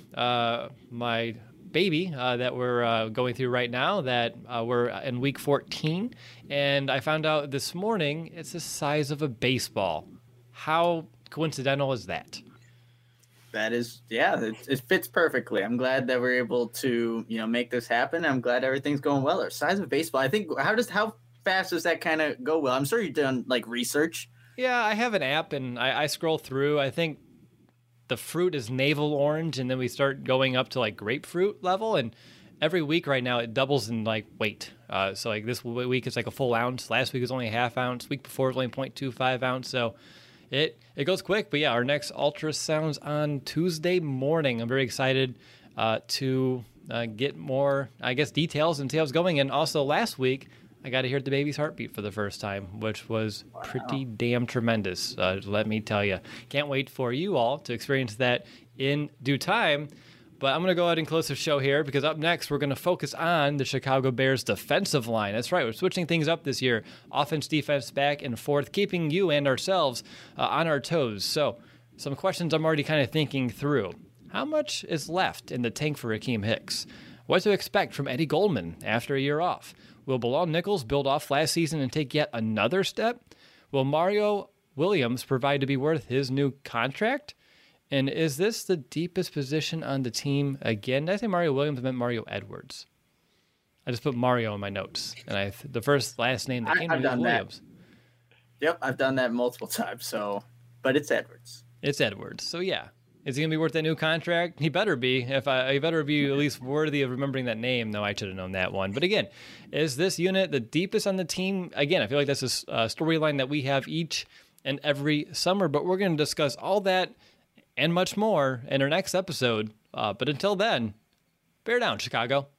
my baby that we're going through right now, that we're in week 14, and I found out this morning it's the size of a baseball. How coincidental is that? That is, it fits perfectly. I'm glad that we're able to, make this happen. I'm glad everything's going well. Our size of baseball, I think, how fast does that kind of go well? I'm sure you've done research. Yeah, I have an app and I scroll through. I think the fruit is navel orange, and then we start going up to grapefruit level. And every week right now it doubles in weight. So this week it's a full ounce. Last week was only a half ounce. Week before it was only 0.25 ounce. So it goes quick. But yeah, our next ultrasound's on Tuesday morning. I'm very excited to get more, details and see how it's going. And also last week, I got to hear the baby's heartbeat for the first time, which was pretty damn tremendous, let me tell you. Can't wait for you all to experience that in due time. But I'm going to go ahead and close the show here because up next, we're going to focus on the Chicago Bears defensive line. That's right. We're switching things up this year. Offense, defense, back and forth, keeping you and ourselves on our toes. So some questions I'm already kind of thinking through. How much is left in the tank for Akiem Hicks? What to expect from Eddie Goldman after a year off? Will Bilal Nichols build off last season and take yet another step? Will Mario Williams provide to be worth his new contract? And is this the deepest position on the team again? Did I say Mario Williams? I meant Mario Edwards. I just put Mario in my notes. And the last name that came to me was Williams. Yep, I've done that multiple times. But it's Edwards. It's Edwards. So yeah. Is he going to be worth that new contract? He better be. He better be at least worthy of remembering that name. No, I should have known that one. But again, is this unit the deepest on the team? Again, I feel like that's a storyline that we have each and every summer. But we're going to discuss all that and much more in our next episode. But until then, bear down, Chicago.